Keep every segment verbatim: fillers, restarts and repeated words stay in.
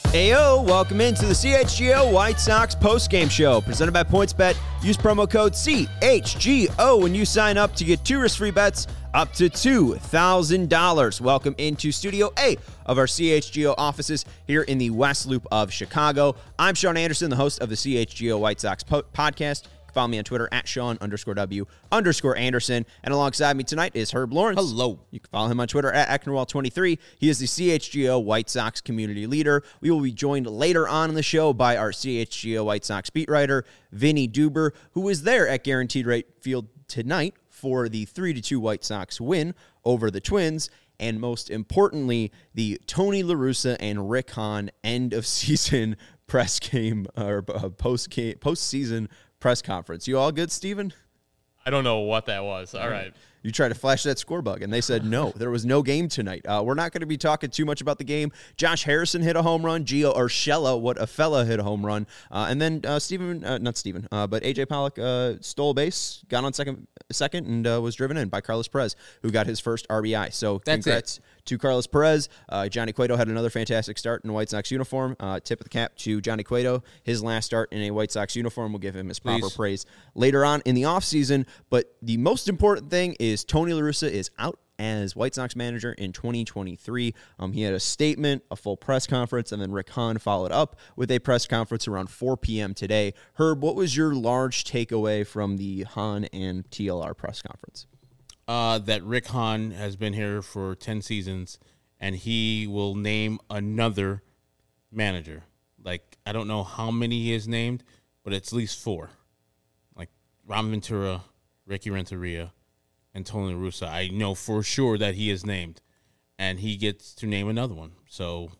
Ayo, welcome into the C H G O White Sox postgame show presented by PointsBet. Use promo code C H G O when you sign up to get two risk-free bets up to two thousand dollars. Welcome into Studio A of our C H G O offices here in the West Loop of Chicago. I'm Sean Anderson, the host of the C H G O White Sox po- podcast. Follow me on Twitter at Sean underscore W underscore Anderson. And alongside me tonight is Herb Lawrence. Hello. You can follow him on Twitter at Ecknerwall twenty-three. He is the C H G O White Sox community leader. We will be joined later on in the show by our C H G O White Sox beat writer, Vinny Duber, who is there at Guaranteed Rate Field tonight for the three to two White Sox win over the Twins. And most importantly, the Tony La Russa and Rick Hahn end of season press game or uh, post game postseason press conference. You all good, Steven? I don't know what that was. All right. You tried to flash that score bug, and they said no. There was no game tonight. Uh, we're not going to be talking too much about the game. Josh Harrison hit a home run. Gio Urshela, what a fella, hit a home run. Uh, and then uh, Steven, uh, not Steven, uh, but A J Pollock uh, stole a base, got on second, second and uh, was driven in by Carlos Perez, who got his first R B I. So That's congrats it. to Carlos Perez. Uh, Johnny Cueto had another fantastic start in a White Sox uniform. Uh, tip of the cap to Johnny Cueto. His last start in a White Sox uniform. We'll give him his proper Please. praise later on in the offseason. But the most important thing is Tony La Russa is out as White Sox manager in twenty twenty-three. Um, he had a statement, a full press conference, and then Rick Hahn followed up with a press conference around four p.m. today. Herb, what was your large takeaway from the Hahn and T L R press conference? Uh, that Rick Hahn has been here for ten seasons, and he will name another manager. Like, I don't know how many he has named, but it's at least four. Like, Ron Ventura, Ricky Renteria, and Tony La Russa. I know for sure that he is named, and he gets to name another one. So,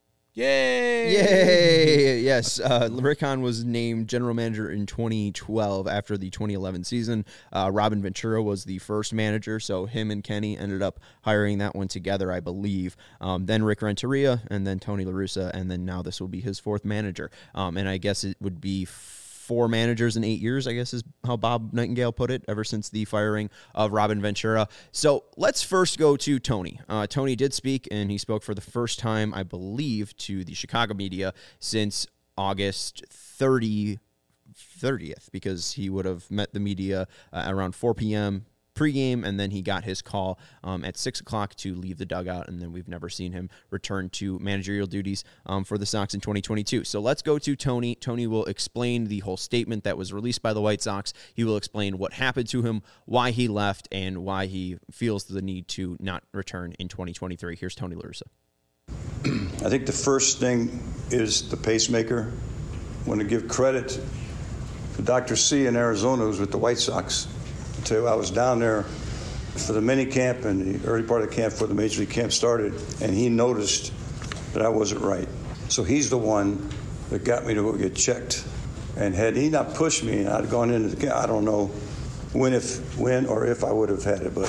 yay! Yay! Yes, uh, Rick Hahn was named general manager in twenty twelve after the twenty eleven season. Uh, Robin Ventura was the first manager, so him and Kenny ended up hiring that one together, I believe. Um, then Rick Renteria, and then Tony La Russa, and then now this will be his fourth manager. Um, and I guess it would be four managers in eight years, I guess is how Bob Nightingale put it, ever since the firing of Robin Ventura. So let's first go to Tony. Uh, Tony did speak, and he spoke for the first time, I believe, to the Chicago media since August thirtieth, because he would have met the media uh, around four p.m., pregame, and then he got his call um, at six o'clock to leave the dugout, and then we've never seen him return to managerial duties um, for the Sox in twenty twenty-two. So let's go to Tony. Tony will explain the whole statement that was released by the White Sox. He will explain what happened to him, why he left, and why he feels the need to not return in twenty twenty-three. Here's Tony La Russa. I think the first thing is the pacemaker. I want to give credit to Doctor C in Arizona, who's with the White Sox. To, I was down there for the mini camp and the early part of the camp before the major league camp started, and he noticed that I wasn't right. So he's the one that got me to go get checked. And had he not pushed me, I'd gone into the camp. I don't know when, if when or if I would have had it, but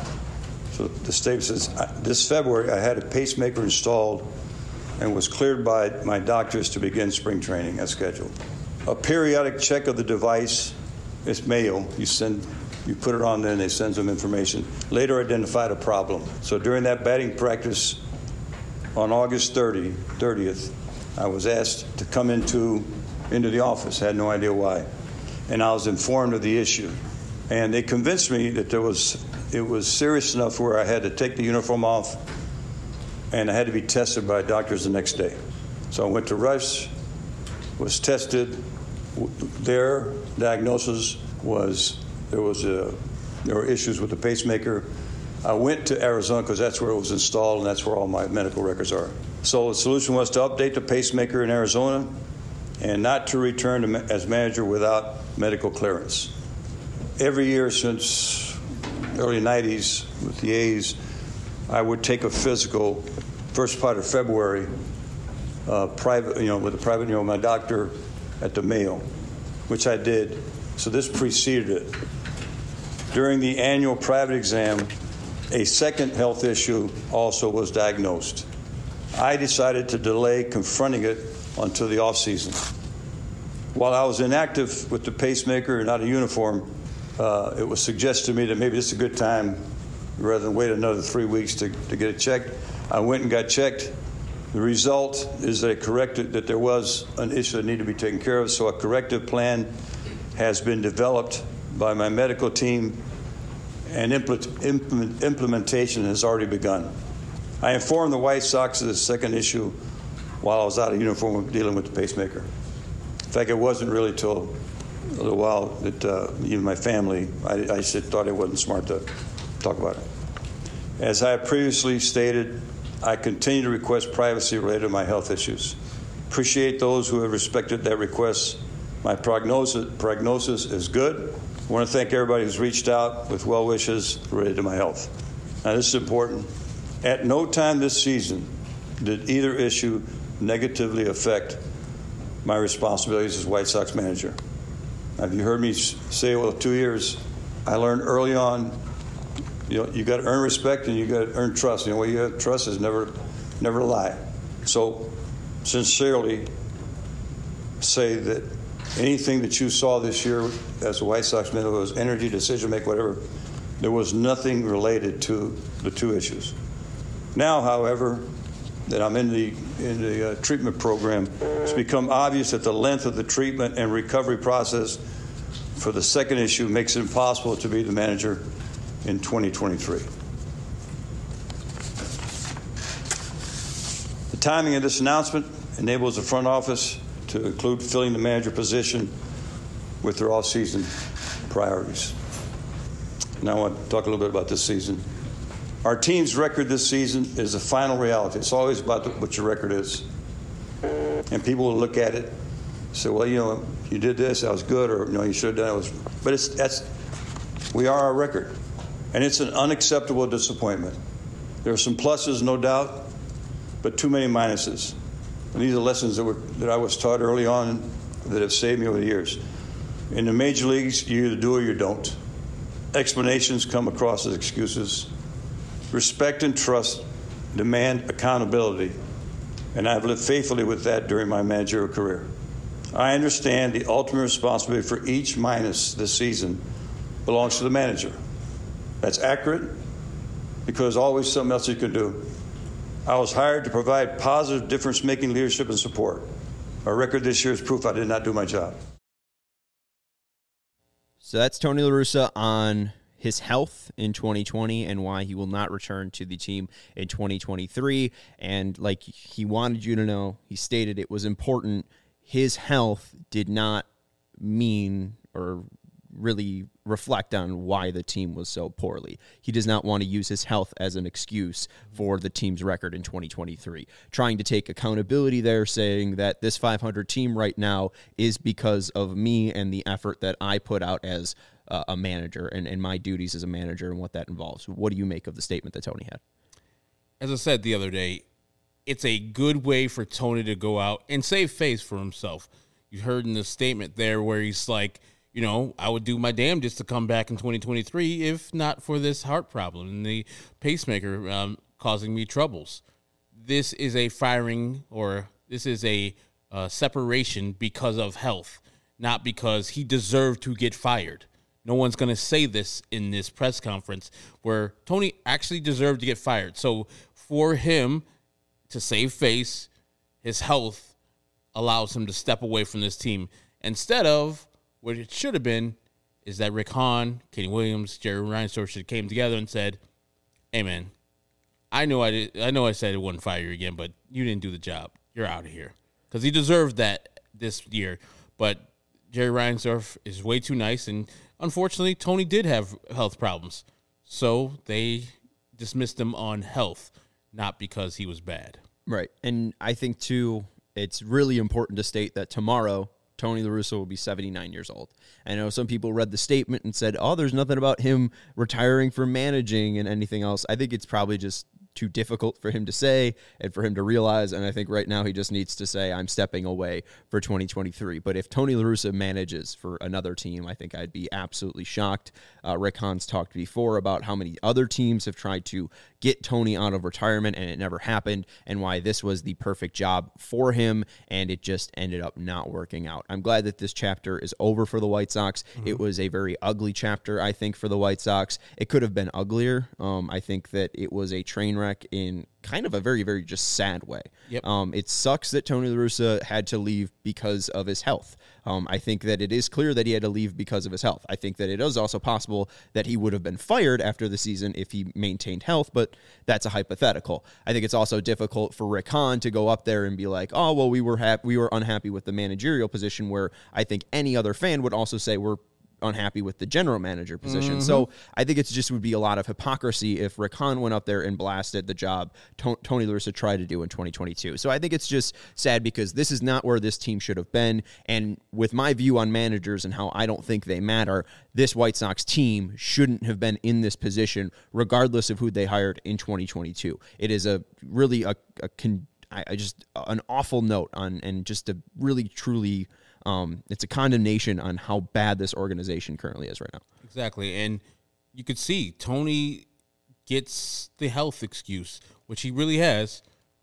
so the statement says this February I had a pacemaker installed and was cleared by my doctors to begin spring training as scheduled. A periodic check of the device, it's mail. You send. You put it on there and they send some information. Later identified a problem. So during that batting practice on August thirtieth, I was asked to come into, into the office. I had no idea why. And I was informed of the issue. And they convinced me that there was it was serious enough where I had to take the uniform off and I had to be tested by doctors the next day. So I went to Rush, was tested. Their diagnosis was There was a, there were issues with the pacemaker. I went to Arizona because that's where it was installed and that's where all my medical records are. So the solution was to update the pacemaker in Arizona and not to return to ma- as manager without medical clearance. Every year since early nineties with the A's, I would take a physical first part of February, uh, private, you know, with a private, you know, my doctor at the Mayo, which I did. So this preceded it. During the annual private exam, a second health issue also was diagnosed. I decided to delay confronting it until the off season. While I was inactive with the pacemaker and out of uniform, uh, it was suggested to me that maybe this is a good time, rather than wait another three weeks to, to get it checked. I went and got checked, The result is that, corrected, that there was an issue that needed to be taken care of, so a corrective plan has been developed by my medical team, and implement, implement, implementation has already begun. I informed the White Sox of the second issue while I was out of uniform dealing with the pacemaker. In fact, it wasn't really till a little while that uh, even my family, I, I just thought it wasn't smart to talk about it. As I have previously stated, I continue to request privacy related to my health issues. Appreciate those who have respected that request. My prognosis, prognosis is good. I want to thank everybody who's reached out with well wishes related to my health. Now, this is important. At no time this season did either issue negatively affect my responsibilities as White Sox manager. Have you heard me say, well, two years, I learned early on, you know, you got to earn respect and you got to earn trust. You know, what you have trust is never, never lie. So, sincerely say that anything that you saw this year as a White Sox manager, was energy, decision making, whatever, there was nothing related to the two issues. Now, however, that I'm in the in the uh, treatment program, it's become obvious that the length of the treatment and recovery process for the second issue makes it impossible to be the manager in twenty twenty-three. The timing of this announcement enables the front office to include filling the manager position with their all-season priorities. Now I want to talk a little bit about this season. Our team's record this season is the final reality. It's always about the, what your record is. And people will look at it and say, well, you know, you did this, that was good, or, you know, you should have done it. Was, but it's, that's, we are our record. And it's an unacceptable disappointment. There are some pluses, no doubt, but too many minuses. And these are lessons that, were, that I was taught early on that have saved me over the years. In the major leagues, you either do or you don't. Explanations come across as excuses. Respect and trust demand accountability, and I've lived faithfully with that during my managerial career. I understand the ultimate responsibility for each minus this season belongs to the manager. That's accurate because always something else you can do. I was hired to provide positive difference-making leadership and support. Our record this year is proof I did not do my job. So that's Tony La Russa on his health in twenty twenty and why he will not return to the team in twenty twenty-three. And like he wanted you to know, he stated it was important. His health did not mean or really reflect on why the team was so poorly. He does not want to use his health as an excuse for the team's record in twenty twenty-three. Trying to take accountability there, saying that this five hundred team right now is because of me and the effort that I put out as uh, a manager and, and my duties as a manager and what that involves. What do you make of the statement that Tony had? As I said the other day, it's a good way for Tony to go out and save face for himself. You heard in the statement there where he's like, you know, I would do my damnedest to come back in twenty twenty-three if not for this heart problem and the pacemaker um, causing me troubles. This is a firing or this is a uh, separation because of health, not because he deserved to get fired. No one's going to say this in this press conference where Tony actually deserved to get fired. So for him to save face, his health allows him to step away from this team instead of what it should have been is that Rick Hahn, Kenny Williams, Jerry Reinsdorf should have came together and said, hey, man, I know I did, I know I said I wouldn't fire you again, but you didn't do the job. You're out of here. Because he deserved that this year. But Jerry Reinsdorf is way too nice, and unfortunately, Tony did have health problems. So they dismissed him on health, not because he was bad. Right. And I think, too, it's really important to state that tomorrow, Tony La Russa will be seventy-nine years old. I know some people read the statement and said, oh, there's nothing about him retiring from managing and anything else. I think it's probably just too difficult for him to say and for him to realize, and I think right now he just needs to say, I'm stepping away for twenty twenty-three. But if Tony La Russa manages for another team, I think I'd be absolutely shocked. Uh, Rick Hahn's talked before about how many other teams have tried to get Tony out of retirement, and it never happened, and why this was the perfect job for him, and it just ended up not working out. I'm glad that this chapter is over for the White Sox. Mm-hmm. It was a very ugly chapter, I think, for the White Sox. It could have been uglier. Um, I think that it was a train wreck in kind of a very, very just sad way. Yep. Um, it sucks that Tony La Russa had to leave because of his health. Um, I think that it is clear that he had to leave because of his health. I think that it is also possible that he would have been fired after the season if he maintained health, but that's a hypothetical. I think it's also difficult for Rick Hahn to go up there and be like, oh, well, we were hap- we were unhappy with the managerial position, where I think any other fan would also say we're unhappy with the general manager position. Mm-hmm. So I think it just would be a lot of hypocrisy if Rick Hahn went up there and blasted the job to- Tony La Russa tried to do in twenty twenty-two. So I think it's just sad because this is not where this team should have been. And with my view on managers and how I don't think they matter, this White Sox team shouldn't have been in this position regardless of who they hired in twenty twenty-two. It is a really a, a con- I, I just an awful note on and just a really truly Um, it's a condemnation on how bad this organization currently is right now. Exactly. And you could see Tony gets the health excuse, which he really has,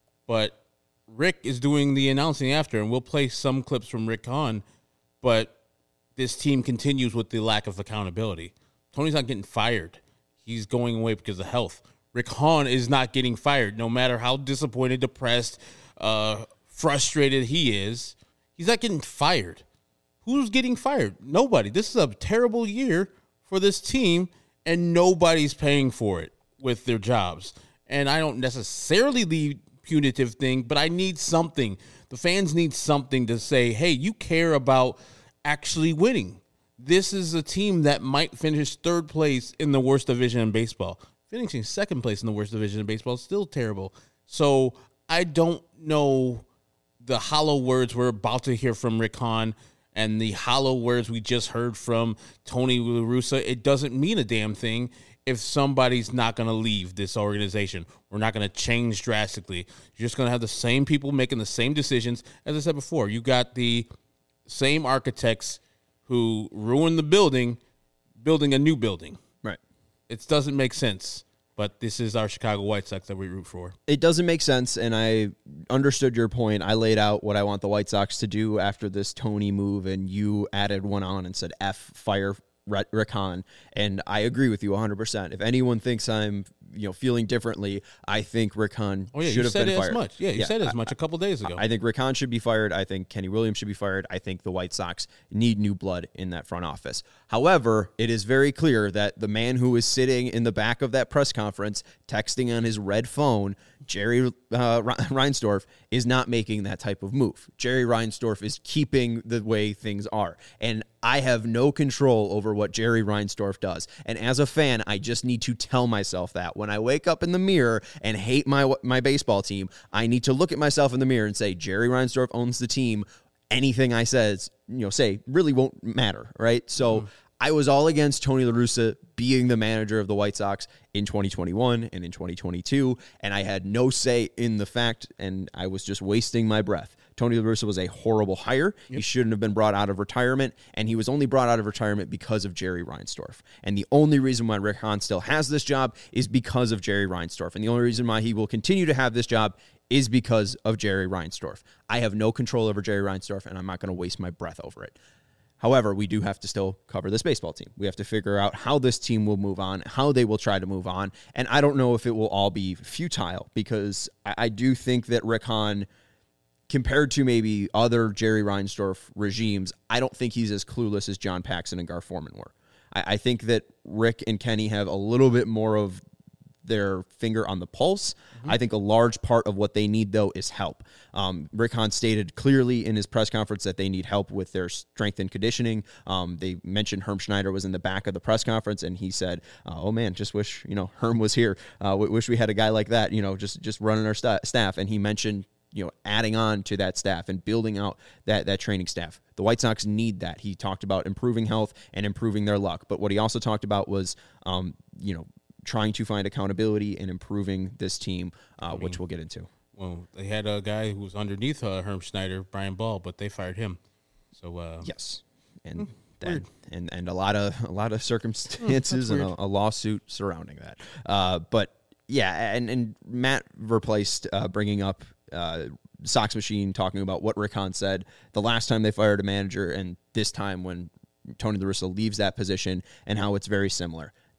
but Rick is doing the announcing after, and we'll play some clips from Rick Hahn, but this team continues with the lack of accountability. Tony's not getting fired. He's going away because of health. Rick Hahn is not getting fired, no matter how disappointed, depressed, uh, frustrated he is. He's not getting fired. Who's getting fired? Nobody. This is a terrible year for this team, and nobody's paying for it with their jobs. And I don't necessarily leave punitive thing, but I need something. The fans need something to say, hey, you care about actually winning. This is a team that might finish third place in the worst division in baseball. Finishing second place in the worst division in baseball is still terrible. So I don't know the hollow words we're about to hear from Rick Hahn and the hollow words we just heard from Tony La Russa. It doesn't mean a damn thing if somebody's not going to leave this organization. We're not going to change drastically. You're just going to have the same people making the same decisions. As I said before, you got the same architects who ruined the building, building a new building. Right. It doesn't make sense. But this is our Chicago White Sox that we root for. It doesn't make sense, and I understood your point. I laid out what I want the White Sox to do after this Tony move, and you added one on and said, F, fire Rick Hahn, and I agree with you one hundred percent. If anyone thinks I'm, you know, feeling differently, I think Rick Hahn oh, yeah, should have been fired. As much. Yeah, you yeah, said it as much a couple days ago. I think Rick Hahn should be fired. I think Kenny Williams should be fired. I think the White Sox need new blood in that front office. However, it is very clear that the man who is sitting in the back of that press conference, texting on his red phone, Jerry uh, Reinsdorf, is not making that type of move. Jerry Reinsdorf is keeping the way things are. And I have no control over what Jerry Reinsdorf does. And as a fan, I just need to tell myself that. When I wake up in the mirror and hate my my baseball team, I need to look at myself in the mirror and say, Jerry Reinsdorf owns the team. Anything I says, you know, say really won't matter, right? So mm-hmm. I was all against Tony La Russa being the manager of the White Sox in twenty twenty-one and in twenty twenty-two, and I had no say in the fact, and I was just wasting my breath. Tony La Russa was a horrible hire. Yep. He shouldn't have been brought out of retirement, and he was only brought out of retirement because of Jerry Reinsdorf. And the only reason why Rick Hahn still has this job is because of Jerry Reinsdorf, and the only reason why he will continue to have this job is because of Jerry Reinsdorf. I have no control over Jerry Reinsdorf, and I'm not going to waste my breath over it. However, we do have to still cover this baseball team. We have to figure out how this team will move on, how they will try to move on. And I don't know if it will all be futile, because I, I do think that Rick Hahn, compared to maybe other Jerry Reinsdorf regimes, I don't think he's as clueless as John Paxson and Gar Forman were. I, I think that Rick and Kenny have a little bit more of their finger on the pulse. Mm-hmm. I think a large part of what they need, though, is help. Um, Rick Hahn stated clearly in his press conference that they need help with their strength and conditioning. Um, they mentioned Herm Schneider was in the back of the press conference, and he said, uh, oh, man, just wish, you know, Herm was here. Uh, wish we had a guy like that, you know, just, just running our st- staff. And he mentioned, you know, adding on to that staff and building out that, that training staff. The White Sox need that. He talked about improving health and improving their luck. But what he also talked about was, um, you know, trying to find accountability and improving this team, uh, I mean, which we'll get into. Well, they had a guy who was underneath uh, Herm Schneider, Brian Ball, but they fired him. So uh, yes, and hmm, that, and and a lot of a lot of circumstances and a, a lawsuit surrounding that. Uh, but yeah, and and Matt replaced uh, bringing up uh, Sox Machine talking about what Rick Hahn said the last time they fired a manager, and this time when Tony La Russa leaves that position, and how it's very similar.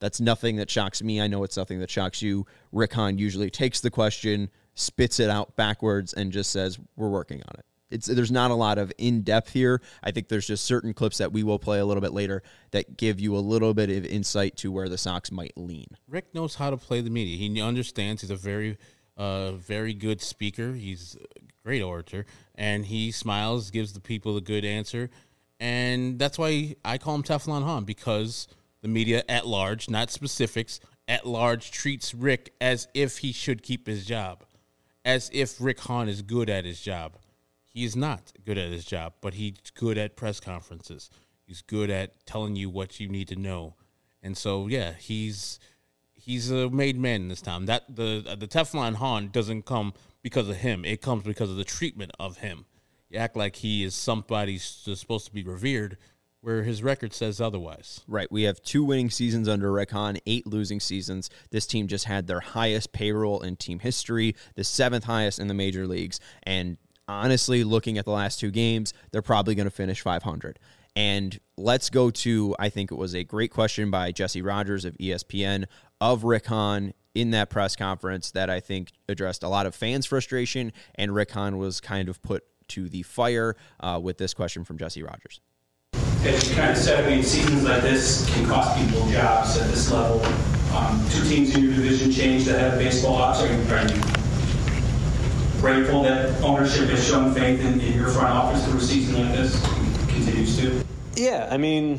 That's nothing that shocks me. I know it's nothing that shocks you. Rick Hahn usually takes the question, spits it out backwards, and just says, we're working on it. It's, there's not a lot of in-depth here. I think there's just certain clips that we will play a little bit later that give you a little bit of insight to where the Sox might lean. Rick knows how to play the media. He understands. He's a very, uh, very good speaker. He's a great orator, and he smiles, gives the people a good answer, and that's why I call him Teflon Hahn, because the media at large, not specifics, at large treats Rick as if he should keep his job, as if Rick Hahn is good at his job. He is not good at his job, but he's good at press conferences. He's good at telling you what you need to know. And so, yeah, he's he's a made man in this town. That the the Teflon Hahn doesn't come because of him. It comes because of the treatment of him. You act like he is somebody supposed to be revered, where his record says otherwise. Right. We have two winning seasons under Rick Hahn, eight losing seasons. This team just had their highest payroll in team history, the seventh highest in the major leagues, and honestly, looking at the last two games, they're probably going to finish five hundred. And let's go to, I think it was a great question by Jesse Rogers of E S P N of Rick Hahn in that press conference that I think addressed a lot of fans' frustration, and Rick Hahn was kind of put to the fire uh, with this question from Jesse Rogers. As you kind of said, I mean, seasons like this can cost people jobs at this level. Um, two teams in your division changed the head of baseball ops. Are you, are you grateful that ownership has shown faith in, in your front office through a season like this and continues to? Yeah, I mean,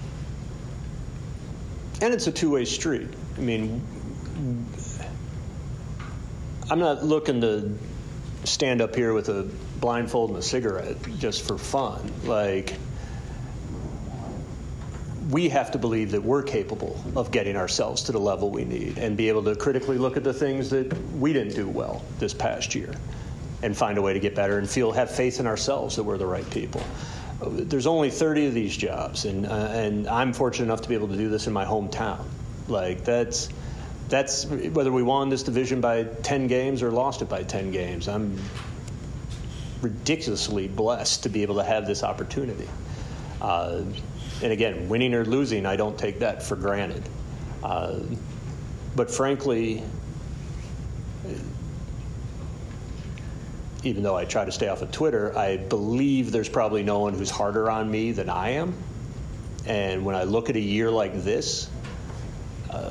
and it's a two-way street. I mean, I'm not looking to stand up here with a blindfold and a cigarette just for fun. Like, we have to believe that we're capable of getting ourselves to the level we need and be able to critically look at the things that we didn't do well this past year and find a way to get better and feel have faith in ourselves that we're the right people. There's only thirty of these jobs, and uh, and I'm fortunate enough to be able to do this in my hometown. Like, that's that's whether we won this division by ten games or lost it by ten games. I'm ridiculously blessed to be able to have this opportunity. Uh, And again, winning or losing, I don't take that for granted. Uh, but frankly, even though I try to stay off of Twitter, I believe there's probably no one who's harder on me than I am. And when I look at a year like this, uh,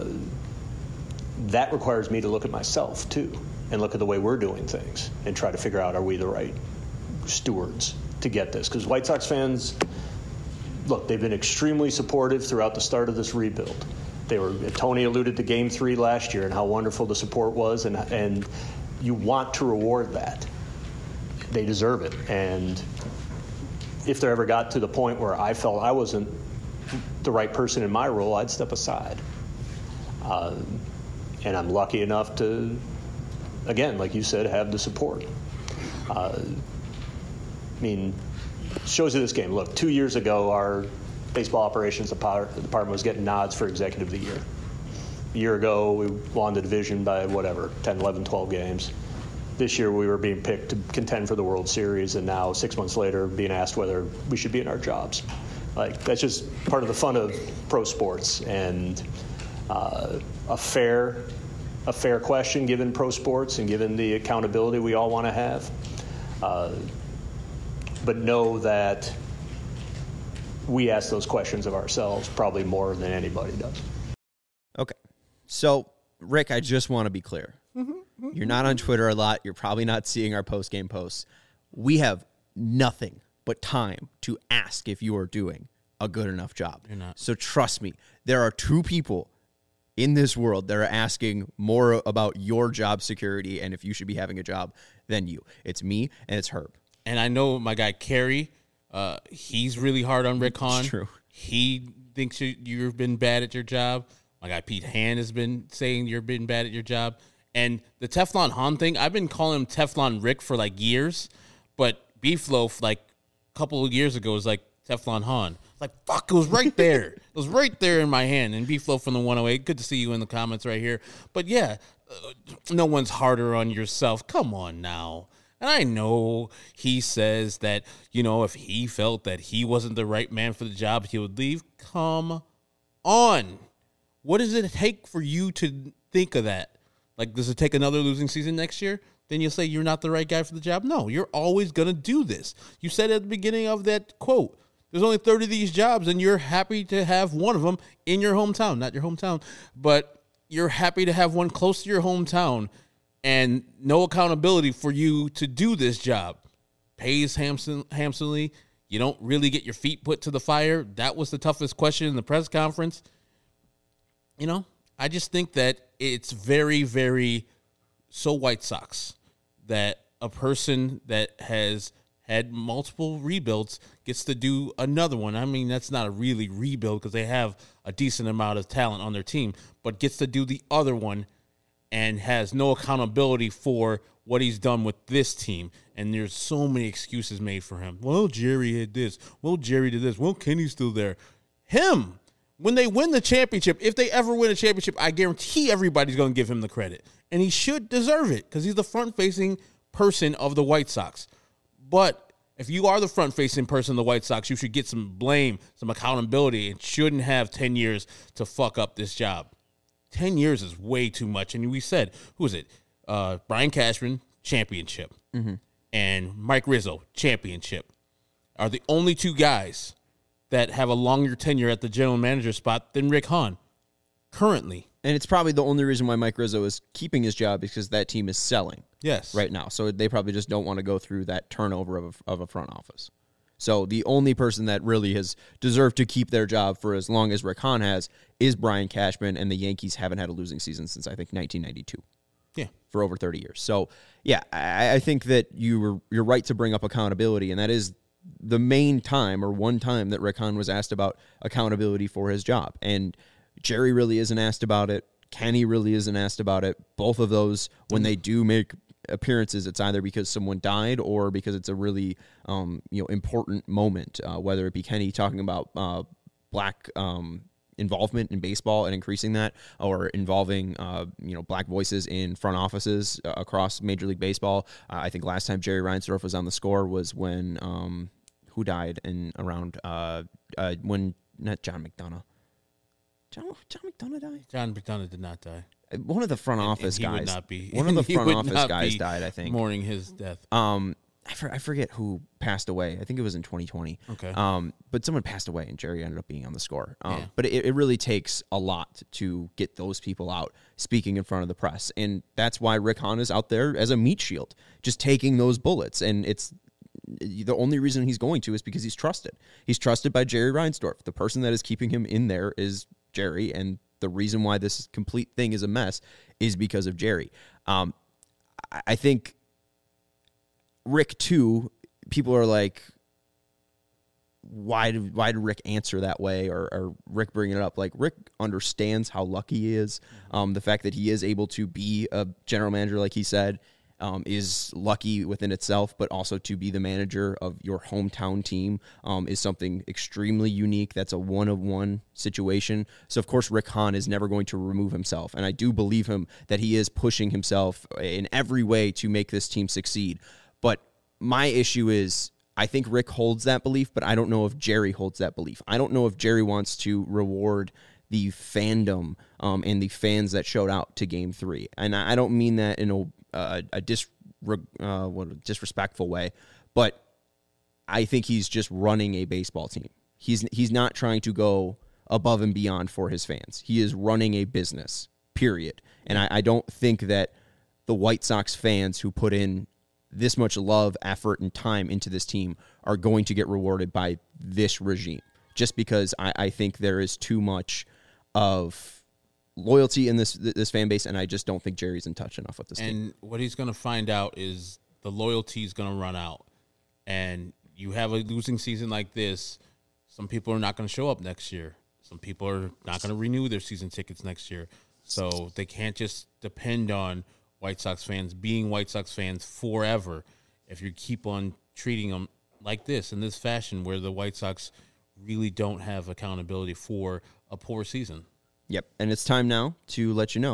that requires me to look at myself too and look at the way we're doing things and try to figure out, are we the right stewards to get this? Because White Sox fans, look, they've been extremely supportive throughout the start of this rebuild. They were, Tony alluded to Game Three last year and how wonderful the support was, and and you want to reward that. They deserve it. And if there ever got to the point where I felt I wasn't the right person in my role, I'd step aside. Uh, and I'm lucky enough to, again, like you said, have the support. Uh, I mean, shows you this game. Look, two years ago, our baseball operations department was getting nods for executive of the year. A year ago, we won the division by whatever, ten, eleven, twelve games. This year, we were being picked to contend for the World Series, and now, six months later, being asked whether we should be in our jobs. Like, that's just part of the fun of pro sports, and uh, a fair, a fair question given pro sports and given the accountability we all want to have. Uh, but know that we ask those questions of ourselves probably more than anybody does. Okay. So, Rick, I just want to be clear. Mm-hmm. You're not on Twitter a lot. You're probably not seeing our post-game posts. We have nothing but time to ask if you are doing a good enough job. You're not. So trust me, there are two people in this world that are asking more about your job security and if you should be having a job than you. It's me and it's Herb. And I know my guy Kerry, uh, he's really hard on Rick Hahn. It's true. He thinks you, you've been bad at your job. My guy Pete Hand has been saying you've been bad at your job. And the Teflon Hahn thing, I've been calling him Teflon Rick for like years, but Beefloaf like a couple of years ago was like Teflon Hahn. Like, fuck, it was right there. It was right there in my hand. And Beefloaf from the one oh eight, good to see you in the comments right here. But yeah, uh, no one's harder on yourself. Come on now. And I know he says that, you know, if he felt that he wasn't the right man for the job, he would leave. Come on. What does it take for you to think of that? Like, does it take another losing season next year? Then you'll say you're not the right guy for the job. No, you're always going to do this. You said at the beginning of that quote, there's only thirty of these jobs, and you're happy to have one of them in your hometown. Not your hometown, but you're happy to have one close to your hometown and no accountability for you to do this job. Pays handsome, handsomely. You don't really get your feet put to the fire. That was the toughest question in the press conference. You know, I just think that it's very, very so White Sox that a person that has had multiple rebuilds gets to do another one. I mean, that's not a really rebuild because they have a decent amount of talent on their team, but gets to do the other one and has no accountability for what he's done with this team. And there's so many excuses made for him. Well, Jerry had this. Well, Jerry did this. Well, Kenny's still there. Him. When they win the championship, if they ever win a championship, I guarantee everybody's going to give him the credit. And he should deserve it because he's the front-facing person of the White Sox. But if you are the front-facing person of the White Sox, you should get some blame, some accountability, and shouldn't have ten years to fuck up this job. ten years is way too much. And we said, who is it? Uh, Brian Cashman, championship. Mm-hmm. And Mike Rizzo, championship. Are the only two guys that have a longer tenure at the general manager spot than Rick Hahn currently. And it's probably the only reason why Mike Rizzo is keeping his job because that team is selling. Yes. Right now. So they probably just don't want to go through that turnover of a, of a front office. So the only person that really has deserved to keep their job for as long as Rick Hahn has is Brian Cashman, and the Yankees haven't had a losing season since, I think, nineteen ninety-two. Yeah. For over thirty years. So, yeah, I, I think that you were, you're right to bring up accountability, and that is the main time or one time that Rick Hahn was asked about accountability for his job. And Jerry really isn't asked about it. Kenny really isn't asked about it. Both of those, when they do make appearances, it's either because someone died or because it's a really um, you know important moment, uh, whether it be Kenny talking about uh, black um, involvement in baseball and increasing that, or involving uh, you know black voices in front offices uh, across Major League Baseball. Uh, I think last time Jerry Reinsdorf was on the score was when um, who died in around uh, uh, when not John McDonough. John, John McDonough died? John McDonough did not die. One of the front And- office and he guys. would not be. One of the he front would office not guys be died, I think. mourning his death. Um, I, for, I forget who passed away. I think it was in twenty twenty. Okay. Um, but someone passed away, and Jerry ended up being on the score. Um, Yeah. But it, it really takes a lot to get those people out speaking in front of the press, and that's why Rick Hahn is out there as a meat shield, just taking those bullets. And it's the only reason he's going to is because he's trusted. He's trusted by Jerry Reinsdorf. The person that is keeping him in there is Jerry, and the reason why this complete thing is a mess is because of Jerry. Um, I, I think Rick too. People are like, why did why did Rick answer that way, or, or Rick bring it up? Like, Rick understands how lucky he is. Um, the fact that he is able to be a general manager, like he said, um, is lucky within itself, but also to be the manager of your hometown team um, is something extremely unique. That's a one-of-one situation. So, of course, Rick Hahn is never going to remove himself, and I do believe him that he is pushing himself in every way to make this team succeed. But my issue is, I think Rick holds that belief, but I don't know if Jerry holds that belief. I don't know if Jerry wants to reward the fandom um, and the fans that showed out to Game Three, and I don't mean that in a a, a dis, uh, what, a disrespectful way, but I think he's just running a baseball team. He's he's not trying to go above and beyond for his fans. He is running a business, period. And I, I don't think that the White Sox fans who put in this much love, effort, and time into this team are going to get rewarded by this regime, just because I, I think there is too much of loyalty in this this fan base, and I just don't think Jerry's in touch enough with this and team. what he's going to find out is the loyalty is going to run out. And you have a losing season like this, some people are not going to show up next year. Some people are not going to renew their season tickets next year. So they can't just depend on White Sox fans being White Sox fans forever if you keep on treating them like this, in this fashion, where the White Sox really don't have accountability for a poor season. Yep, and it's time now to let you know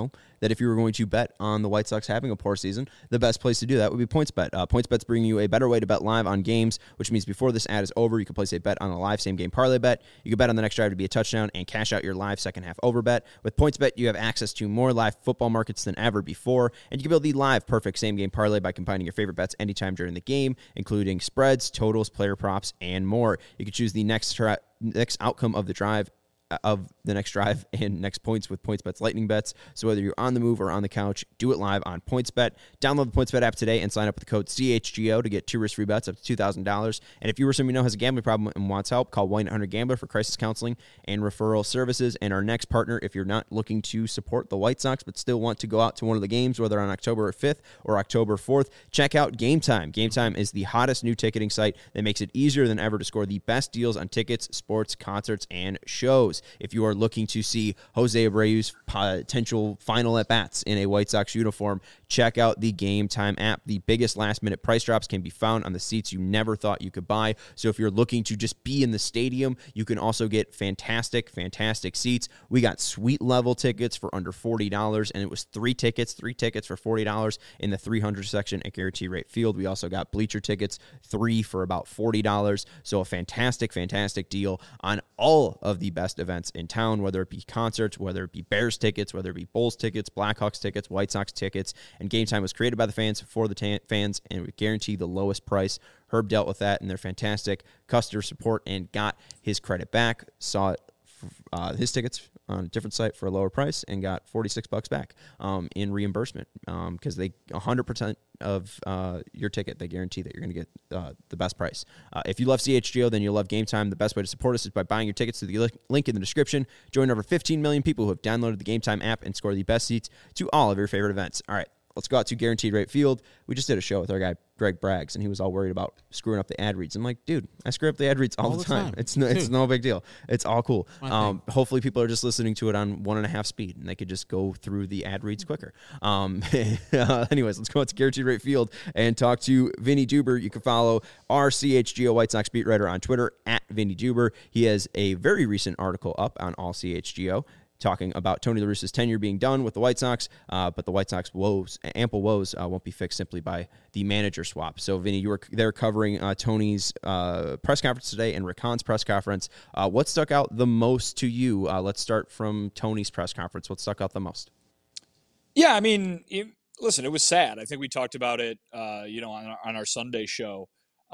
that if you were going to bet on the White Sox having a poor season, the best place to do that would be PointsBet. Uh, PointsBet's bringing you a better way to bet live on games, which means before this ad is over, you can place a bet on a live same-game parlay bet. You can bet on the next drive to be a touchdown and cash out your live second-half over bet. With PointsBet, you have access to more live football markets than ever before, and you can build the live perfect same-game parlay by combining your favorite bets anytime during the game, including spreads, totals, player props, and more. You can choose the next tra- next outcome of the drive of the next drive and next points with PointsBet's Lightning Bets. So whether you're on the move or on the couch, do it live on PointsBet. Download the PointsBet app today and sign up with the code C H G O to get two risk-free bets up to two thousand dollars. And if you or someone you know has a gambling problem and wants help, call one eight hundred gambler for crisis counseling and referral services. And our next partner, if you're not looking to support the White Sox but still want to go out to one of the games, whether on October fifth or October fourth, check out Game Time. Game Time is the hottest new ticketing site that makes it easier than ever to score the best deals on tickets, sports, concerts, and shows. If you are looking to see Jose Abreu's potential final at-bats in a White Sox uniform, check out the Game Time app. The biggest last-minute price drops can be found on the seats you never thought you could buy. So if you're looking to just be in the stadium, you can also get fantastic, fantastic seats. We got suite level tickets for under forty dollars, and it was three tickets, three tickets for forty dollars in the three hundred section at Guaranteed Rate Field. We also got bleacher tickets, three for about forty dollars. So a fantastic, fantastic deal on all of the best events in town, whether it be concerts, whether it be Bears tickets, whether it be Bulls tickets, Blackhawks tickets, White Sox tickets. And Game Time was created by the fans for the ta- fans, and we guarantee the lowest price. Herb dealt with that, and their fantastic customer support and got his credit back. Saw it, uh, his tickets on a different site for a lower price and got forty-six bucks back um, in reimbursement because um, they one hundred percent of uh, your ticket, they guarantee that you're going to get uh, the best price. Uh, if you love C H G O, then you'll love Game Time. The best way to support us is by buying your tickets through the link in the description. Join over fifteen million people who have downloaded the Game Time app and score the best seats to all of your favorite events. All right, let's go out to Guaranteed Rate Field. We just did a show with our guy, Greg Braggs, and he was all worried about screwing up the ad reads. I'm like, dude, I screw up the ad reads all, all the, the time. time. It's no, it's no big deal. It's all cool. Um, hopefully people are just listening to it on one and a half speed, and they could just go through the ad reads quicker. Um, uh, anyways, let's go out to Guaranteed Rate Field and talk to Vinny Duber. You can follow our C H G O White Sox beat writer on Twitter, at Vinny Duber. He has a very recent article up on All C H G O talking about Tony La Russa's tenure being done with the White Sox, uh, but the White Sox woes, ample woes, uh, won't be fixed simply by the manager swap. So, Vinny, you were there covering uh, Tony's uh, press conference today and Rick Hahn's press conference. Uh, what stuck out the most to you? Uh, let's start from Tony's press conference. What stuck out the most? Yeah, I mean, it, listen, it was sad. I think we talked about it, uh, you know, on our, on our Sunday show.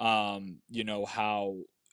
Um, you know how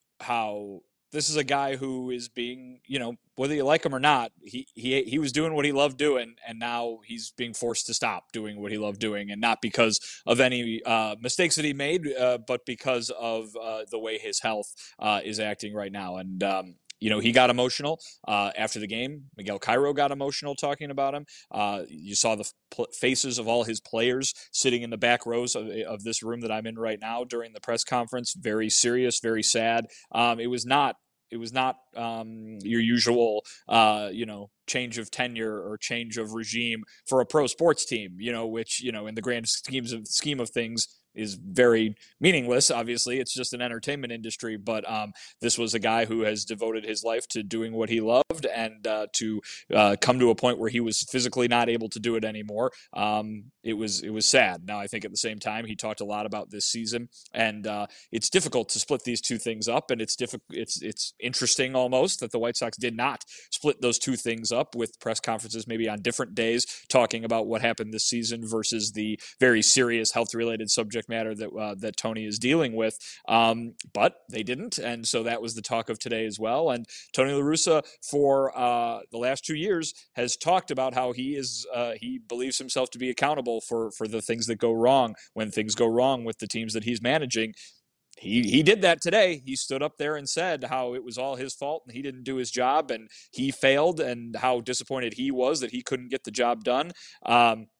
how. This is a guy who is being, you know, whether you like him or not, he he he was doing what he loved doing, and now he's being forced to stop doing what he loved doing, and not because of any uh, mistakes that he made, uh, but because of uh, the way his health uh, is acting right now. And um, you know, he got emotional uh, after the game. Miguel Cairo got emotional talking about him. Uh, you saw the f- faces of all his players sitting in the back rows of, of this room that I'm in right now during the press conference. Very serious, very sad. Um, it was not. It was not um, your usual, uh, you know, change of tenure or change of regime for a pro sports team, you know, which, you know, in the grand schemes of scheme of things is very meaningless. Obviously, it's just an entertainment industry, but um, this was a guy who has devoted his life to doing what he loved, and uh, to uh, come to a point where he was physically not able to do it anymore. Um, it was it was sad. Now, I think at the same time, he talked a lot about this season, and uh, it's difficult to split these two things up, and it's difficult. It's it's interesting almost that the White Sox did not split those two things up with press conferences maybe on different days talking about what happened this season versus the very serious health-related subject matter that uh, that Tony is dealing with, um, but they didn't, and so that was the talk of today as well. And Tony La Russa, for uh, the last two years, has talked about how he is uh, he believes himself to be accountable for for the things that go wrong when things go wrong with the teams that he's managing. He he did that today. He stood up there and said how it was all his fault and he didn't do his job and he failed, and how disappointed he was that he couldn't get the job done. Um,